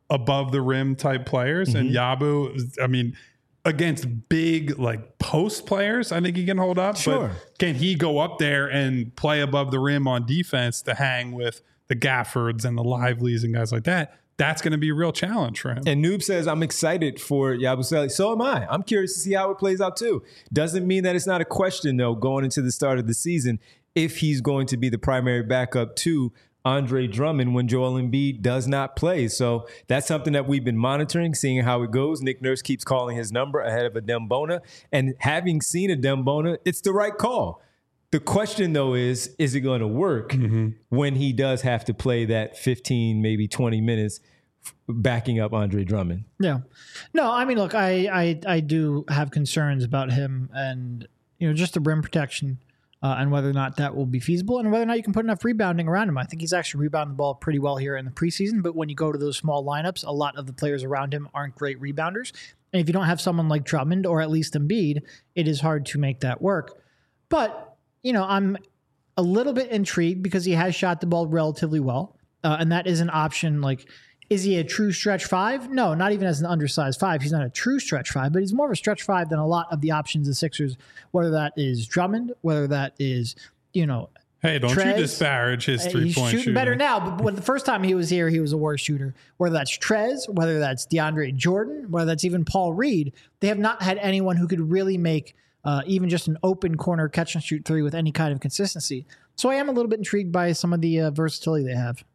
above the rim type players. And Yabu, I mean, against big like post players, I think he can hold up. Sure. But can he go up there and play above the rim on defense to hang with the Gaffords and the Liveleys and guys like that? That's going to be a real challenge for him. And Noob says, I'm excited for Yabusele. So am I. I'm curious to see how it plays out too. Doesn't mean that it's not a question, though, going into the start of the season, if he's going to be the primary backup to Andre Drummond when Joel Embiid does not play. So that's something that we've been monitoring, seeing how it goes. Nick Nurse keeps calling his number ahead of Adem Bona. And having seen Adem Bona, it's the right call. The question, though, is it going to work when he does have to play that 15, maybe 20 minutes backing up Andre Drummond? Yeah. No, I mean, look, I do have concerns about him and, just the rim protection and whether or not that will be feasible and whether or not you can put enough rebounding around him. I think he's actually rebounding the ball pretty well here in the preseason, but when you go to those small lineups, a lot of the players around him aren't great rebounders. And if you don't have someone like Drummond or at least Embiid, it is hard to make that work. But, I'm a little bit intrigued because he has shot the ball relatively well. And that is an option. Like, is he a true stretch five? No, not even as an undersized five. He's not a true stretch five, but he's more of a stretch five than a lot of the options the Sixers, whether that is Drummond, whether that is, hey, don't Trez. you disparage his 3-point He's shooting shooting. better now, but when the first time he was here, he was a worse shooter. Whether that's Trez, whether that's DeAndre Jordan, whether that's even Paul Reed, they have not had anyone who could really make even just an open corner catch and shoot three with any kind of consistency. So I am a little bit intrigued by some of the versatility they have.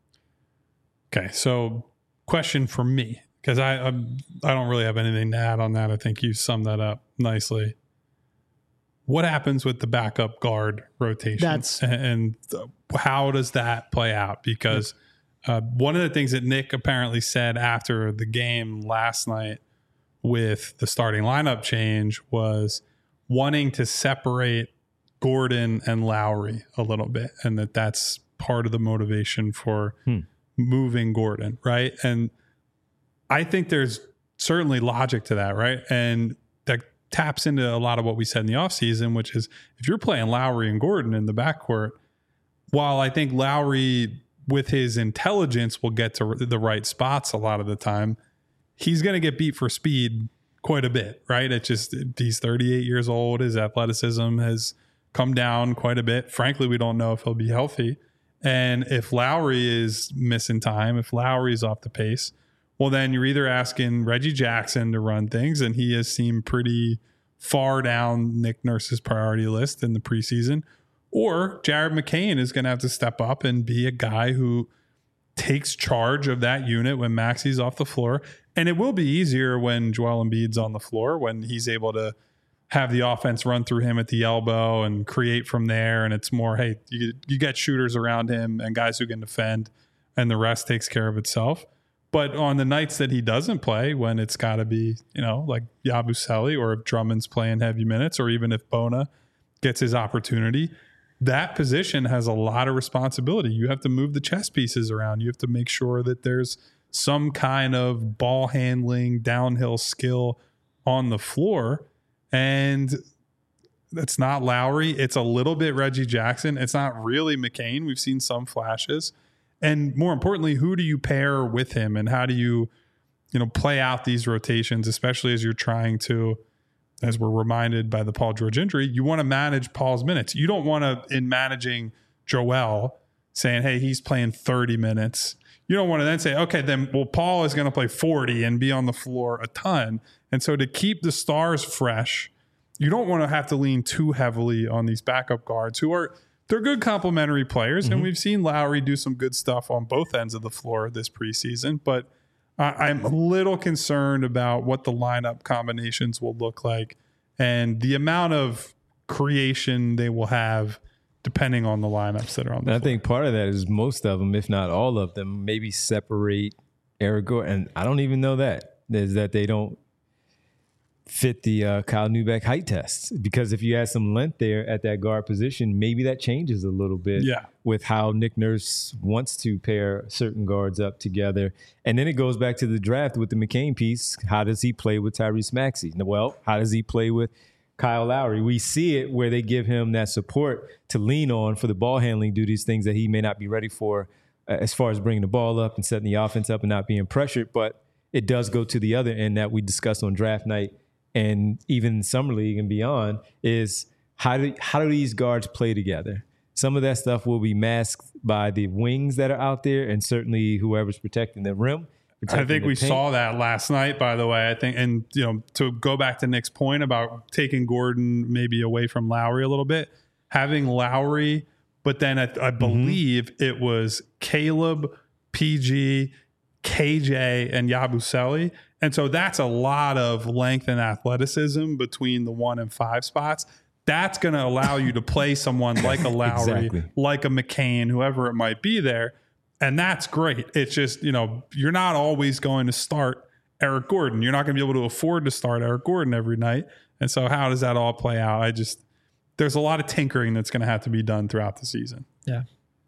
Okay, so question for me, because I don't really have anything to add on that. I think you summed that up nicely. What happens with the backup guard rotation? And how does that play out? Because one of the things that Nick apparently said after the game last night with the starting lineup change was wanting to separate Gordon and Lowry a little bit, and that's part of the motivation for moving Gordon, right? And I think there's certainly logic to that, right? And that taps into a lot of what we said in the offseason, which is if you're playing Lowry and Gordon in the backcourt, while I think Lowry with his intelligence will get to the right spots a lot of the time, he's going to get beat for speed quite a bit, right? It's just he's 38 years old. His athleticism has come down quite a bit. Frankly, we don't know if he'll be healthy. And if Lowry is missing time, if Lowry's off the pace, well, then you're either asking Reggie Jackson to run things, and he has seemed pretty far down Nick Nurse's priority list in the preseason, or Jared McCain is going to have to step up and be a guy who takes charge of that unit when Maxi's off the floor. And it will be easier when Joel Embiid's on the floor, when he's able to have the offense run through him at the elbow and create from there. And it's more, hey, you get shooters around him and guys who can defend, and the rest takes care of itself. But on the nights that he doesn't play, when it's got to be, like Yabusele, or if Drummond's playing heavy minutes, or even if Bona gets his opportunity, that position has a lot of responsibility. You have to move the chess pieces around. You have to make sure that there's some kind of ball handling, downhill skill on the floor. And it's not Lowry. It's a little bit Reggie Jackson. It's not really McCain. We've seen some flashes. And more importantly, who do you pair with him, and how do you play out these rotations, especially as you're trying to, as we're reminded by the Paul George injury, you want to manage Paul's minutes. You don't want to, in managing Joel, saying, hey, he's playing 30 minutes. You don't want to then say, okay, then, well, Paul is going to play 40 and be on the floor a ton. And so to keep the stars fresh, you don't want to have to lean too heavily on these backup guards they're good complementary players. And we've seen Lowry do some good stuff on both ends of the floor this preseason, but I'm a little concerned about what the lineup combinations will look like and the amount of creation they will have depending on the lineups that are on the floor. I think part of that is most of them, if not all of them, maybe separate Eric Gordon. And I don't even know that, is that they don't fit the Kyle Neubeck height test. Because if you add some length there at that guard position, maybe that changes a little bit with how Nick Nurse wants to pair certain guards up together. And then it goes back to the draft with the McCain piece. How does he play with Tyrese Maxey? Well, how does he play with Kyle Lowry? We see it where they give him that support to lean on for the ball handling duties, things that he may not be ready for as far as bringing the ball up and setting the offense up and not being pressured. But it does go to the other end that we discussed on draft night and even Summer League and beyond is how do these guards play together? Some of that stuff will be masked by the wings that are out there and certainly whoever's protecting the rim. I think we saw that last night, by the way. I think, and to go back to Nick's point about taking Gordon maybe away from Lowry a little bit, having Lowry, but then I believe it was Caleb, PG, KJ, and Yabusele. And so that's a lot of length and athleticism between the 1 and 5 spots. That's going to allow you to play someone like a Lowry, like a McCain, whoever it might be there. And that's great. It's just, you're not always going to start Eric Gordon. You're not going to be able to afford to start Eric Gordon every night. And so how does that all play out? There's a lot of tinkering that's going to have to be done throughout the season. Yeah.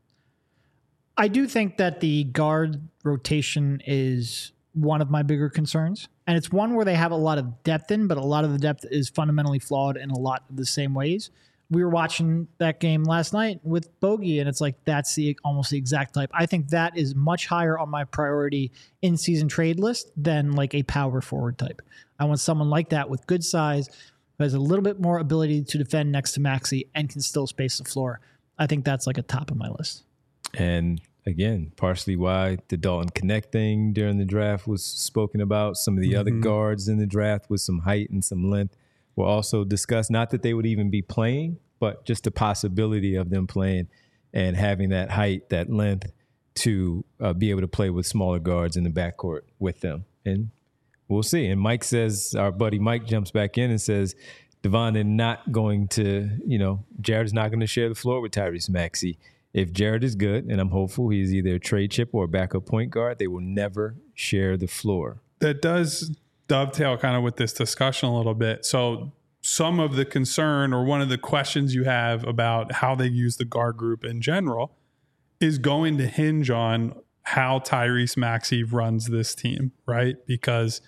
I do think that the guard rotation is one of my bigger concerns. And it's one where they have a lot of depth in, but a lot of the depth is fundamentally flawed in a lot of the same ways. We were watching that game last night with Bogey, and it's like that's almost the exact type. I think that is much higher on my priority in-season trade list than like a power forward type. I want someone like that with good size, who has a little bit more ability to defend next to Maxey and can still space the floor. I think that's like a top of my list. And again, partially why the Dalton Connect thing during the draft was spoken about. Some of the other guards in the draft with some height and some length were also discussed. Not that they would even be playing, but just the possibility of them playing and having that height, that length to be able to play with smaller guards in the backcourt with them. And we'll see. And Mike says, our buddy Mike jumps back in and says, Devon, they're not going to, Jared is not going to share the floor with Tyrese Maxey. If Jared is good, and I'm hopeful he's either a trade chip or a backup point guard, they will never share the floor. That does dovetail kind of with this discussion a little bit. So some of the concern or one of the questions you have about how they use the guard group in general is going to hinge on how Tyrese Maxey runs this team, right? Because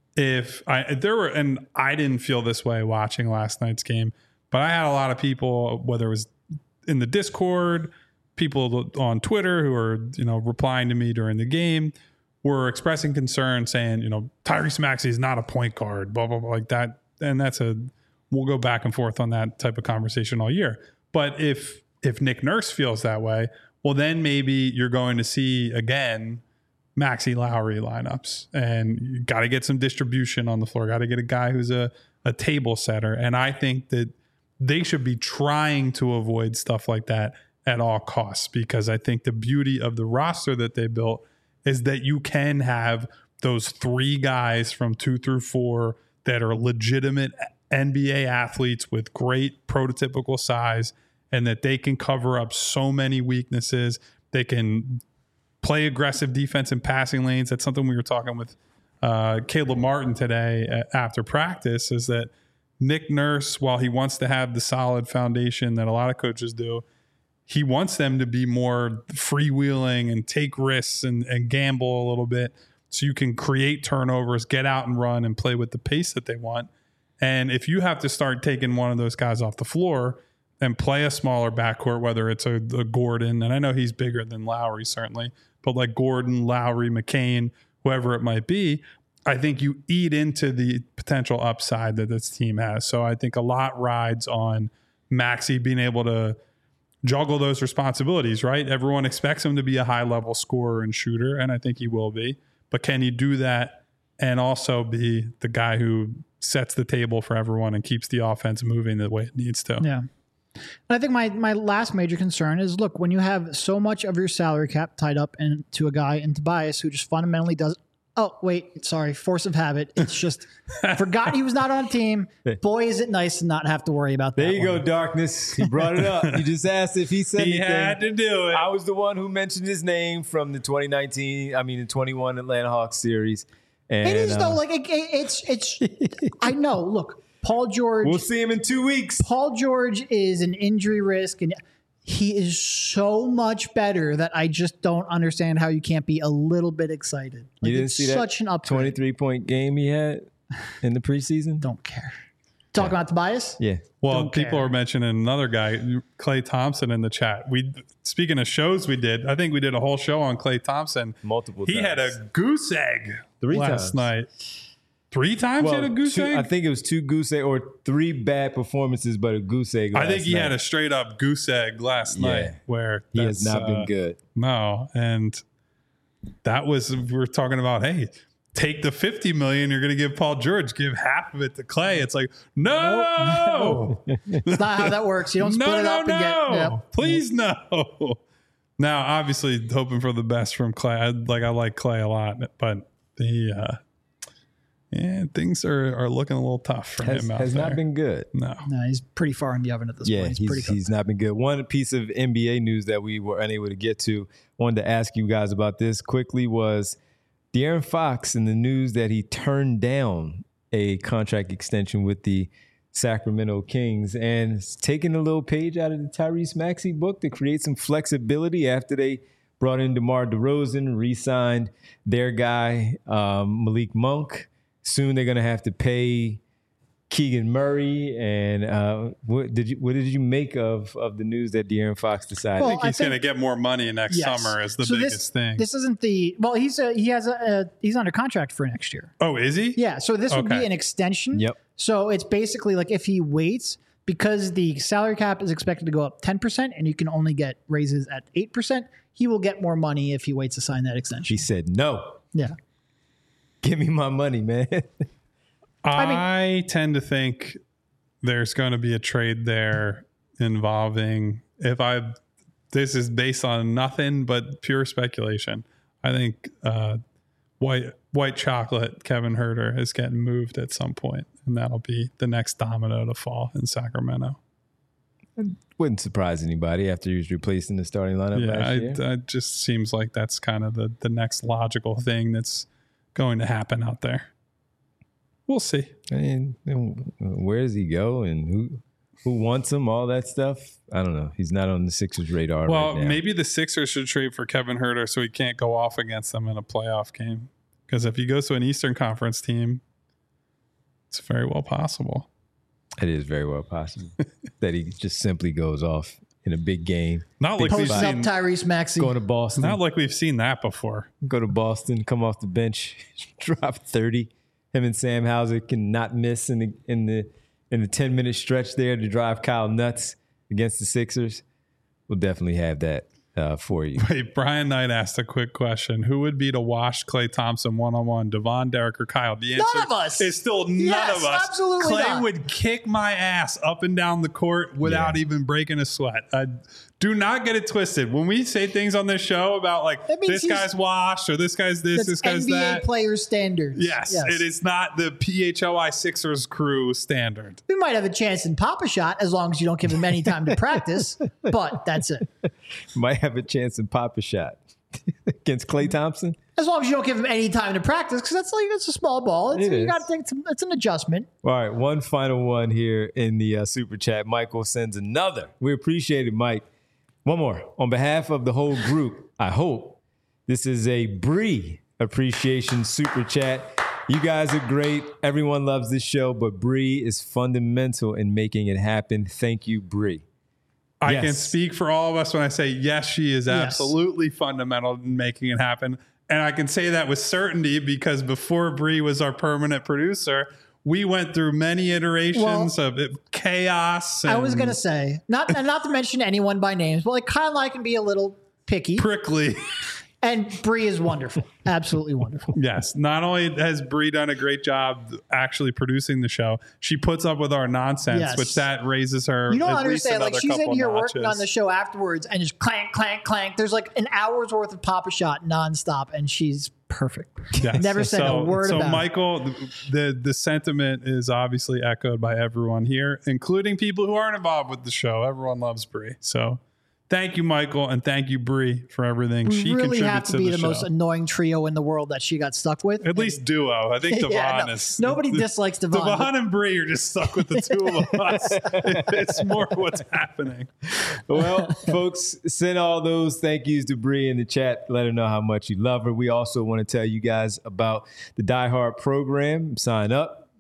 I didn't feel this way watching last night's game, but I had a lot of people, whether it was in the Discord, people on Twitter who are, replying to me during the game, were expressing concern saying, Tyrese Maxey is not a point guard, blah, blah, blah, like that. And we'll go back and forth on that type of conversation all year. But if Nick Nurse feels that way, well, then maybe you're going to see, again, Maxey Lowry lineups. And you got to get some distribution on the floor. Got to get a guy who's a table setter. And I think that they should be trying to avoid stuff like that at all costs, because I think the beauty of the roster that they built is that you can have those 3 guys from 2 through 4 that are legitimate NBA athletes with great prototypical size, and that they can cover up so many weaknesses. They can play aggressive defense in passing lanes. That's something we were talking with Caleb Martin today after practice, is that Nick Nurse, while he wants to have the solid foundation that a lot of coaches do, he wants them to be more freewheeling and take risks and gamble a little bit, so you can create turnovers, get out and run, and play with the pace that they want. And if you have to start taking one of those guys off the floor and play a smaller backcourt, whether it's a Gordon, and I know he's bigger than Lowry certainly, but like Gordon, Lowry, McCain, whoever it might be, I think you eat into the potential upside that this team has. So I think a lot rides on Maxey being able to juggle those responsibilities, right? Everyone expects him to be a high-level scorer and shooter, and I think he will be. But can he do that and also be the guy who sets the table for everyone and keeps the offense moving the way it needs to? Yeah. And I think my last major concern is, look, when you have so much of your salary cap tied up into a guy in Tobias who just fundamentally does – oh, wait, sorry, force of habit. It's just forgot he was not on a team. Boy, is it nice to not have to worry about that. There you go, Darkness. He brought it up. You just asked if he said anything. He had to do it. I was the one who mentioned his name from the 21 Atlanta Hawks series. And, it is, though. Like, it's I know. Look, Paul George. We'll see him in 2 weeks. Paul George is an injury risk, and he is so much better that I just don't understand how you can't be a little bit excited. Like, you didn't see that such an upgrade. 23-point game he had in the preseason? Don't care. Talking about Tobias? Yeah. Well, Don't people care. are mentioning another guy, Klay Thompson, in the chat. Speaking of shows we did, I think we did a whole show on Klay Thompson. Multiple He times. had a goose egg 3 last times. night. 3 times he had a goose egg? I think it was 2 goose egg or 3 bad performances, but a goose egg. I think he had night. a straight up goose egg last Yeah. night where He has that's, not been good. No. And that was, we were talking about, hey, take the $50 million you're going to give Paul George, give half of it to Klay. It's like, no, It's not how that works. You don't split it up and get. Yep. Please no. Now, obviously, hoping for the best from Klay. I like Klay a lot, but things are looking a little tough for him out Has there. not been good. No. No, he's pretty far in the oven at this Yeah, point. He's pretty he's not been good. One piece of NBA news that we were unable to get to, wanted to ask you guys about this quickly, was De'Aaron Fox in the news that he turned down a contract extension with the Sacramento Kings and is taking a little page out of the Tyrese Maxey book to create some flexibility after they brought in DeMar DeRozan, re-signed their guy, Malik Monk. Soon they're going to have to pay Keegan Murray. And what did you make of the news that De'Aaron Fox decided? I think he's going to get more money next Yes. summer is the So biggest thing. This isn't the well. He's under contract for next year. Oh, is he? Yeah. So this would be Okay. an extension. Yep. So it's basically like if he waits, because the salary cap is expected to go up 10% and you can only get raises at 8%, he will get more money if he waits to sign that extension. She said, no, Yeah. give me my money, man. I tend to think there's going to be a trade there involving, this is based on nothing but pure speculation. I think white chocolate Kevin Huerter is getting moved at some point, and that'll be the next domino to fall in Sacramento. Wouldn't surprise anybody after he was replaced in the starting lineup last year. Yeah, it just seems like that's kind of the next logical thing that's going to happen out there. We'll see. I mean, where does he go and who wants him? All that stuff. I don't know. He's not on the Sixers' radar Well, right now. maybe the Sixers should trade for Kevin Huerter so he can't go off against them in a playoff game. Because if he goes to an Eastern Conference team, it's very well possible. It is very well possible that he just simply goes off in a big game. Not like we've Posting up seen. Tyrese Maxey. Going to Boston. Not like we've seen that before. Go to Boston, come off the bench, drop 30. Him and Sam Hauser can not miss in the 10-minute stretch there to drive Kyle nuts against the Sixers. We'll definitely have that for you. Wait, Brian Knight asked a quick question. Who would be to wash Klay Thompson one-on-one, Devon, Derek, or Kyle? The answer None of us. is still none Yes, of us. absolutely Klay not. would kick my ass up and down the court without even breaking a sweat. Do not get it twisted. When we say things on this show about like That means this he's- guy's washed or this guy's this, That's this guy's NBA that. player standards. Yes, it is not the PHLI Sixers crew standard. We might have a chance in Papa Shot as long as you don't give him any time to practice, but that's it. Might have a chance in Papa Shot against Klay Thompson. As long as you don't give him any time to practice, because that's a small ball. It You is. got to think it's an adjustment. All right, one final one here in the super chat. Michael sends another. We appreciate it, Mike. One more. On behalf of the whole group, I hope this is a Bree appreciation super chat. You guys are great. Everyone loves this show, but Bree is fundamental in making it happen. Thank you, Bree. I Yes. can speak for all of us when I say, yes, she is absolutely fundamental in making it happen. And I can say that with certainty because before Bree was our permanent producer, we went through many iterations of chaos. I was and going to say, not to mention anyone by names, but like Kyle and I can be a little picky, prickly. and Bree is wonderful. Absolutely wonderful. Yes. Not only has Bree done a great job actually producing the show, she puts up with our nonsense, Yes. which that raises her. You don't at least understand. Like another she's in couple here notches. working on the show afterwards and just clank, clank, clank. There's like an hour's worth of Papa Shot nonstop, and she's perfect. Yes. Never said a word so about it. Michael, the sentiment is obviously echoed by everyone here, including people who aren't involved with the show. Everyone loves Bree. So thank you, Michael, and thank you, Bree, for everything We she really contributes have to to be the show. most annoying trio in the world that she got stuck with. At least duo. I think Devon Yeah, no, is. nobody dislikes Devon. Devon and Bree are just stuck with the two of us. It's more what's happening. Well, folks, send all those thank yous to Bree in the chat. Let her know how much you love her. We also want to tell you guys about the Die Hard program. Sign up.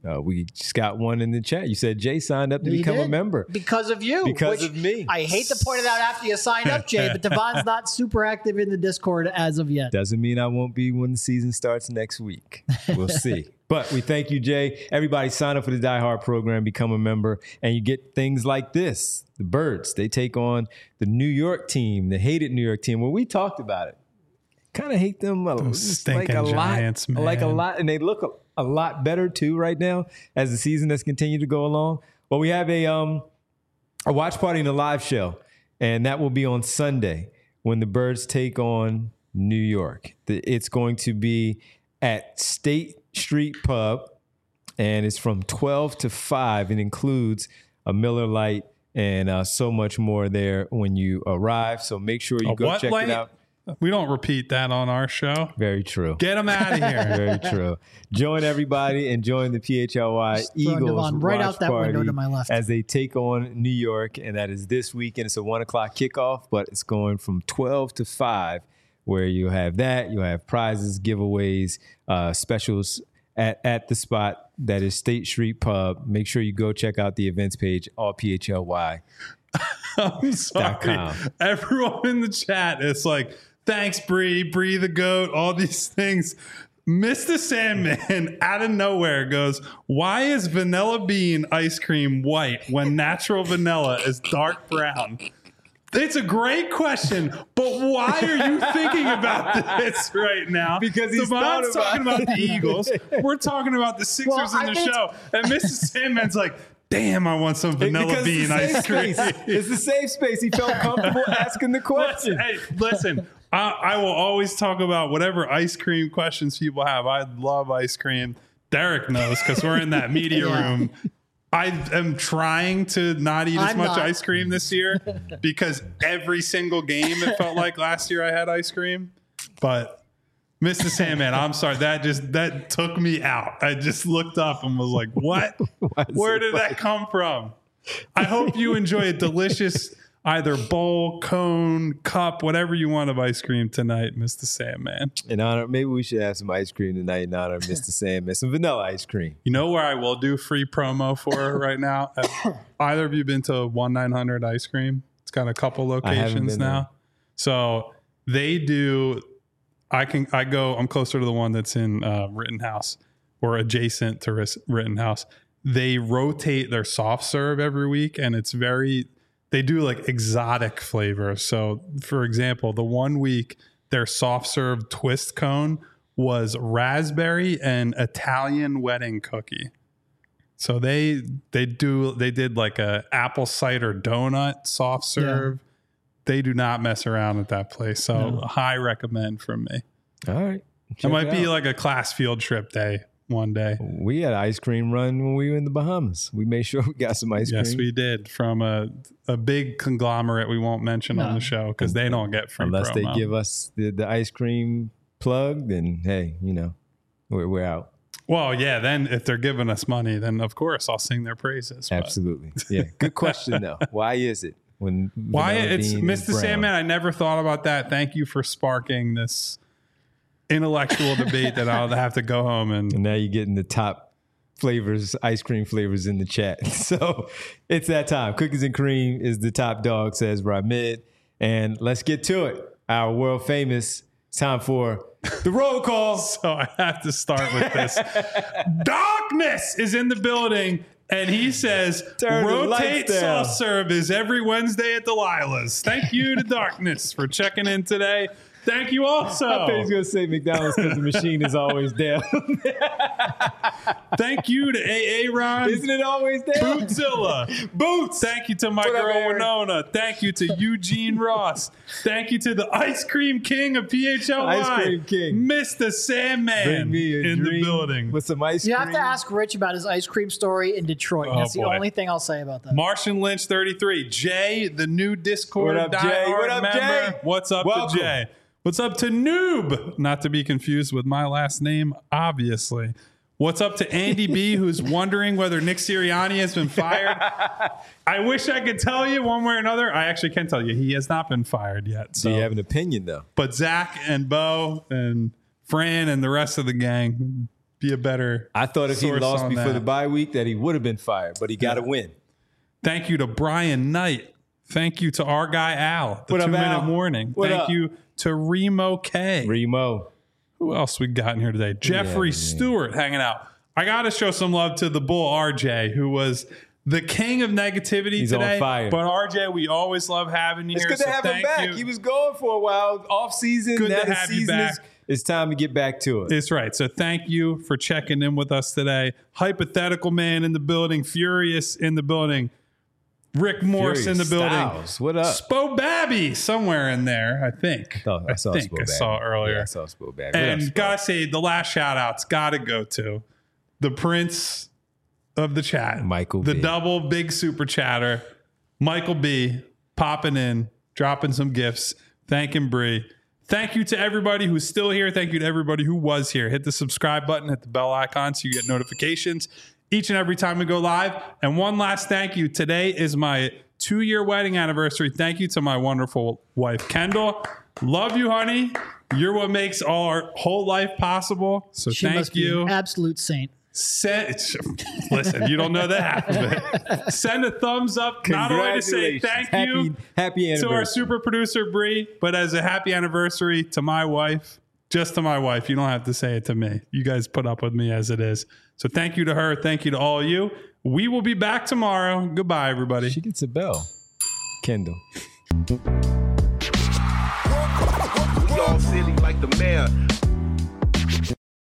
We just got one in the chat. You said Jay signed up to He become a did. member. Because of you. Because which of me. I hate to point it out after you sign up, Jay, but Devon's not super active in the Discord as of yet. Doesn't mean I won't be when the season starts next week. We'll see. But we thank you, Jay. Everybody sign up for the Die Hard program, become a member, and you get things like this. The Birds, they take on the New York team, the hated New York team. Well, we talked about it. Kind of hate them stinking Giants, man. Like a lot, and they look a lot better too right now as the season has continued to go along. Well, we have a watch party and a live show, and that will be on Sunday when the Birds take on New York. It's going to be at State Street Pub, and it's from 12 to 5. It includes a Miller Lite and so much more there when you arrive. So make sure you go check it out. We don't repeat that on our show. Very true. Get them out of here. Very true. Join everybody and join the PHLY Eagles right watch out that party window to my left as they take on New York, and that is this weekend. It's a 1:00 kickoff, but it's going from 12 to 5, where you have that. You have prizes, giveaways, specials at the spot that is State Street Pub. Make sure you go check out the events page, allphly. I'm sorry. Everyone in the chat is like, thanks, Bree the goat, all these things. Mr. Sandman out of nowhere goes, why is vanilla bean ice cream white when natural vanilla is dark brown? It's a great question, but why are you thinking about this right now? Because he's talking about the Eagles. We're talking about the Sixers in the show. And Mr. Sandman's like, damn, I want some vanilla bean ice cream. It's the safe space. He felt comfortable asking the question. Listen, I will always talk about whatever ice cream questions people have. I love ice cream. Derek knows because we're in that media room. I am trying to not eat as much ice cream this year because every single game it felt like last year I had ice cream. But Mr. Sandman, I'm sorry. That took me out. I just looked up and was like, what? Where did that come from? I hope you enjoy a delicious either bowl, cone, cup, whatever you want of ice cream tonight, Mr. Sandman. In honor, maybe we should have some ice cream tonight in honor of Mr. Sandman. Some vanilla ice cream. You know where I will do free promo for right now? Either of you been to 1-900 Ice Cream? It's got a couple locations now. There. So they do. I'm closer to the one that's in Rittenhouse or adjacent to Rittenhouse. They rotate their soft serve every week, and they do like exotic flavors. So for example, the one week their soft serve twist cone was raspberry and Italian wedding cookie. So they did like a apple cider donut soft serve. Yeah. They do not mess around at that place. So high recommend from me. All right. It might be like a class field trip day one day. We had an ice cream run when we were in the Bahamas. We made sure we got some ice cream. Yes, we did. From a big conglomerate we won't mention on the show because they don't get free unless promo. They give us the ice cream plug, then hey, we're out. Well, yeah, then if they're giving us money, then of course I'll sing their praises. Absolutely. Yeah. Good question though. Why is it? Why it's Mr. Sandman, I never thought about that. Thank you for sparking this intellectual debate that I'll have to go home and now you're getting the top flavors, ice cream flavors in the chat. So it's that time. Cookies and cream is the top dog, says Ramid. And let's get to it. Our world famous time for the roll call. So I have to start with this. Darkness is in the building. And he says, rotate soft serve is every Wednesday at Delilah's. Thank you to Darkness for checking in today. Thank you also. I thought he was going to say McDonald's because the machine is always down. Thank you to AA Ron. Isn't it always down? Bootzilla. Boots. Thank you to my girl Winona. Thank you to Eugene Ross. Thank you to the Ice Cream King of PHLY. Ice Cream King. Mr. Sandman in the building. With some ice cream. You have to ask Rich about his ice cream story in Detroit. That's the only thing I'll say about that. Martian Lynch 33. Jay, the new Discord. What up, Jay? What up, Jay? What's up to Jay? What's up to Noob? Not to be confused with my last name, obviously. What's up to Andy B, who's wondering whether Nick Sirianni has been fired? I wish I could tell you one way or another. I actually can tell you he has not been fired yet. So. Do you have an opinion, though? But Zach and Bo and Fran and the rest of the gang, be a better. I thought if he source lost on before that. the bye week that he would have been fired, but he got to win. Thank you to Brian Knight. Thank you to our guy Al, the What up, 2 Minute Al? Morning. What Thank up? you to Remo K. Remo. Who else we got in here today? Jeffrey Stewart hanging out. I got to show some love to the bull RJ, who was the king of negativity He's today. on fire. But RJ, we always love having you It's here. good to have him thank back. you. He was gone for a while, off season. Good now to the have you season back. It's time to get back to it. It's right. So thank you for checking in with us today. Hypothetical Man in the building. Furious in the building. Rick Morse in the building. Styles, what up? Spo Babby somewhere in there, I think. I saw think Spo I Babby. saw earlier. Yeah, I saw Spo Babby. What up, And Spo? gotta say, the last shout outs gotta go to the prince of the chat, Michael the B. double big super chatter, Michael B, popping in, dropping some gifts, thanking Bree. Thank you to everybody who's still here. Thank you to everybody who was here. Hit the subscribe button, hit the bell icon so you get notifications each and every time we go live. And one last thank you. Today is my 2-year wedding anniversary. Thank you to my wonderful wife, Kendall. Love you, honey. You're what makes our whole life possible. So She thank must be you. an absolute saint. Listen, you don't know the half of it. Send a thumbs up, not only to say thank you Happy to anniversary. our super producer, Bree, but as a happy anniversary to my wife. Just to my wife. You don't have to say it to me. You guys put up with me as it is. So thank you to her. Thank you to all of you. We will be back tomorrow. Goodbye, everybody. She gets a bell. Kendall. Y'all silly like the mayor.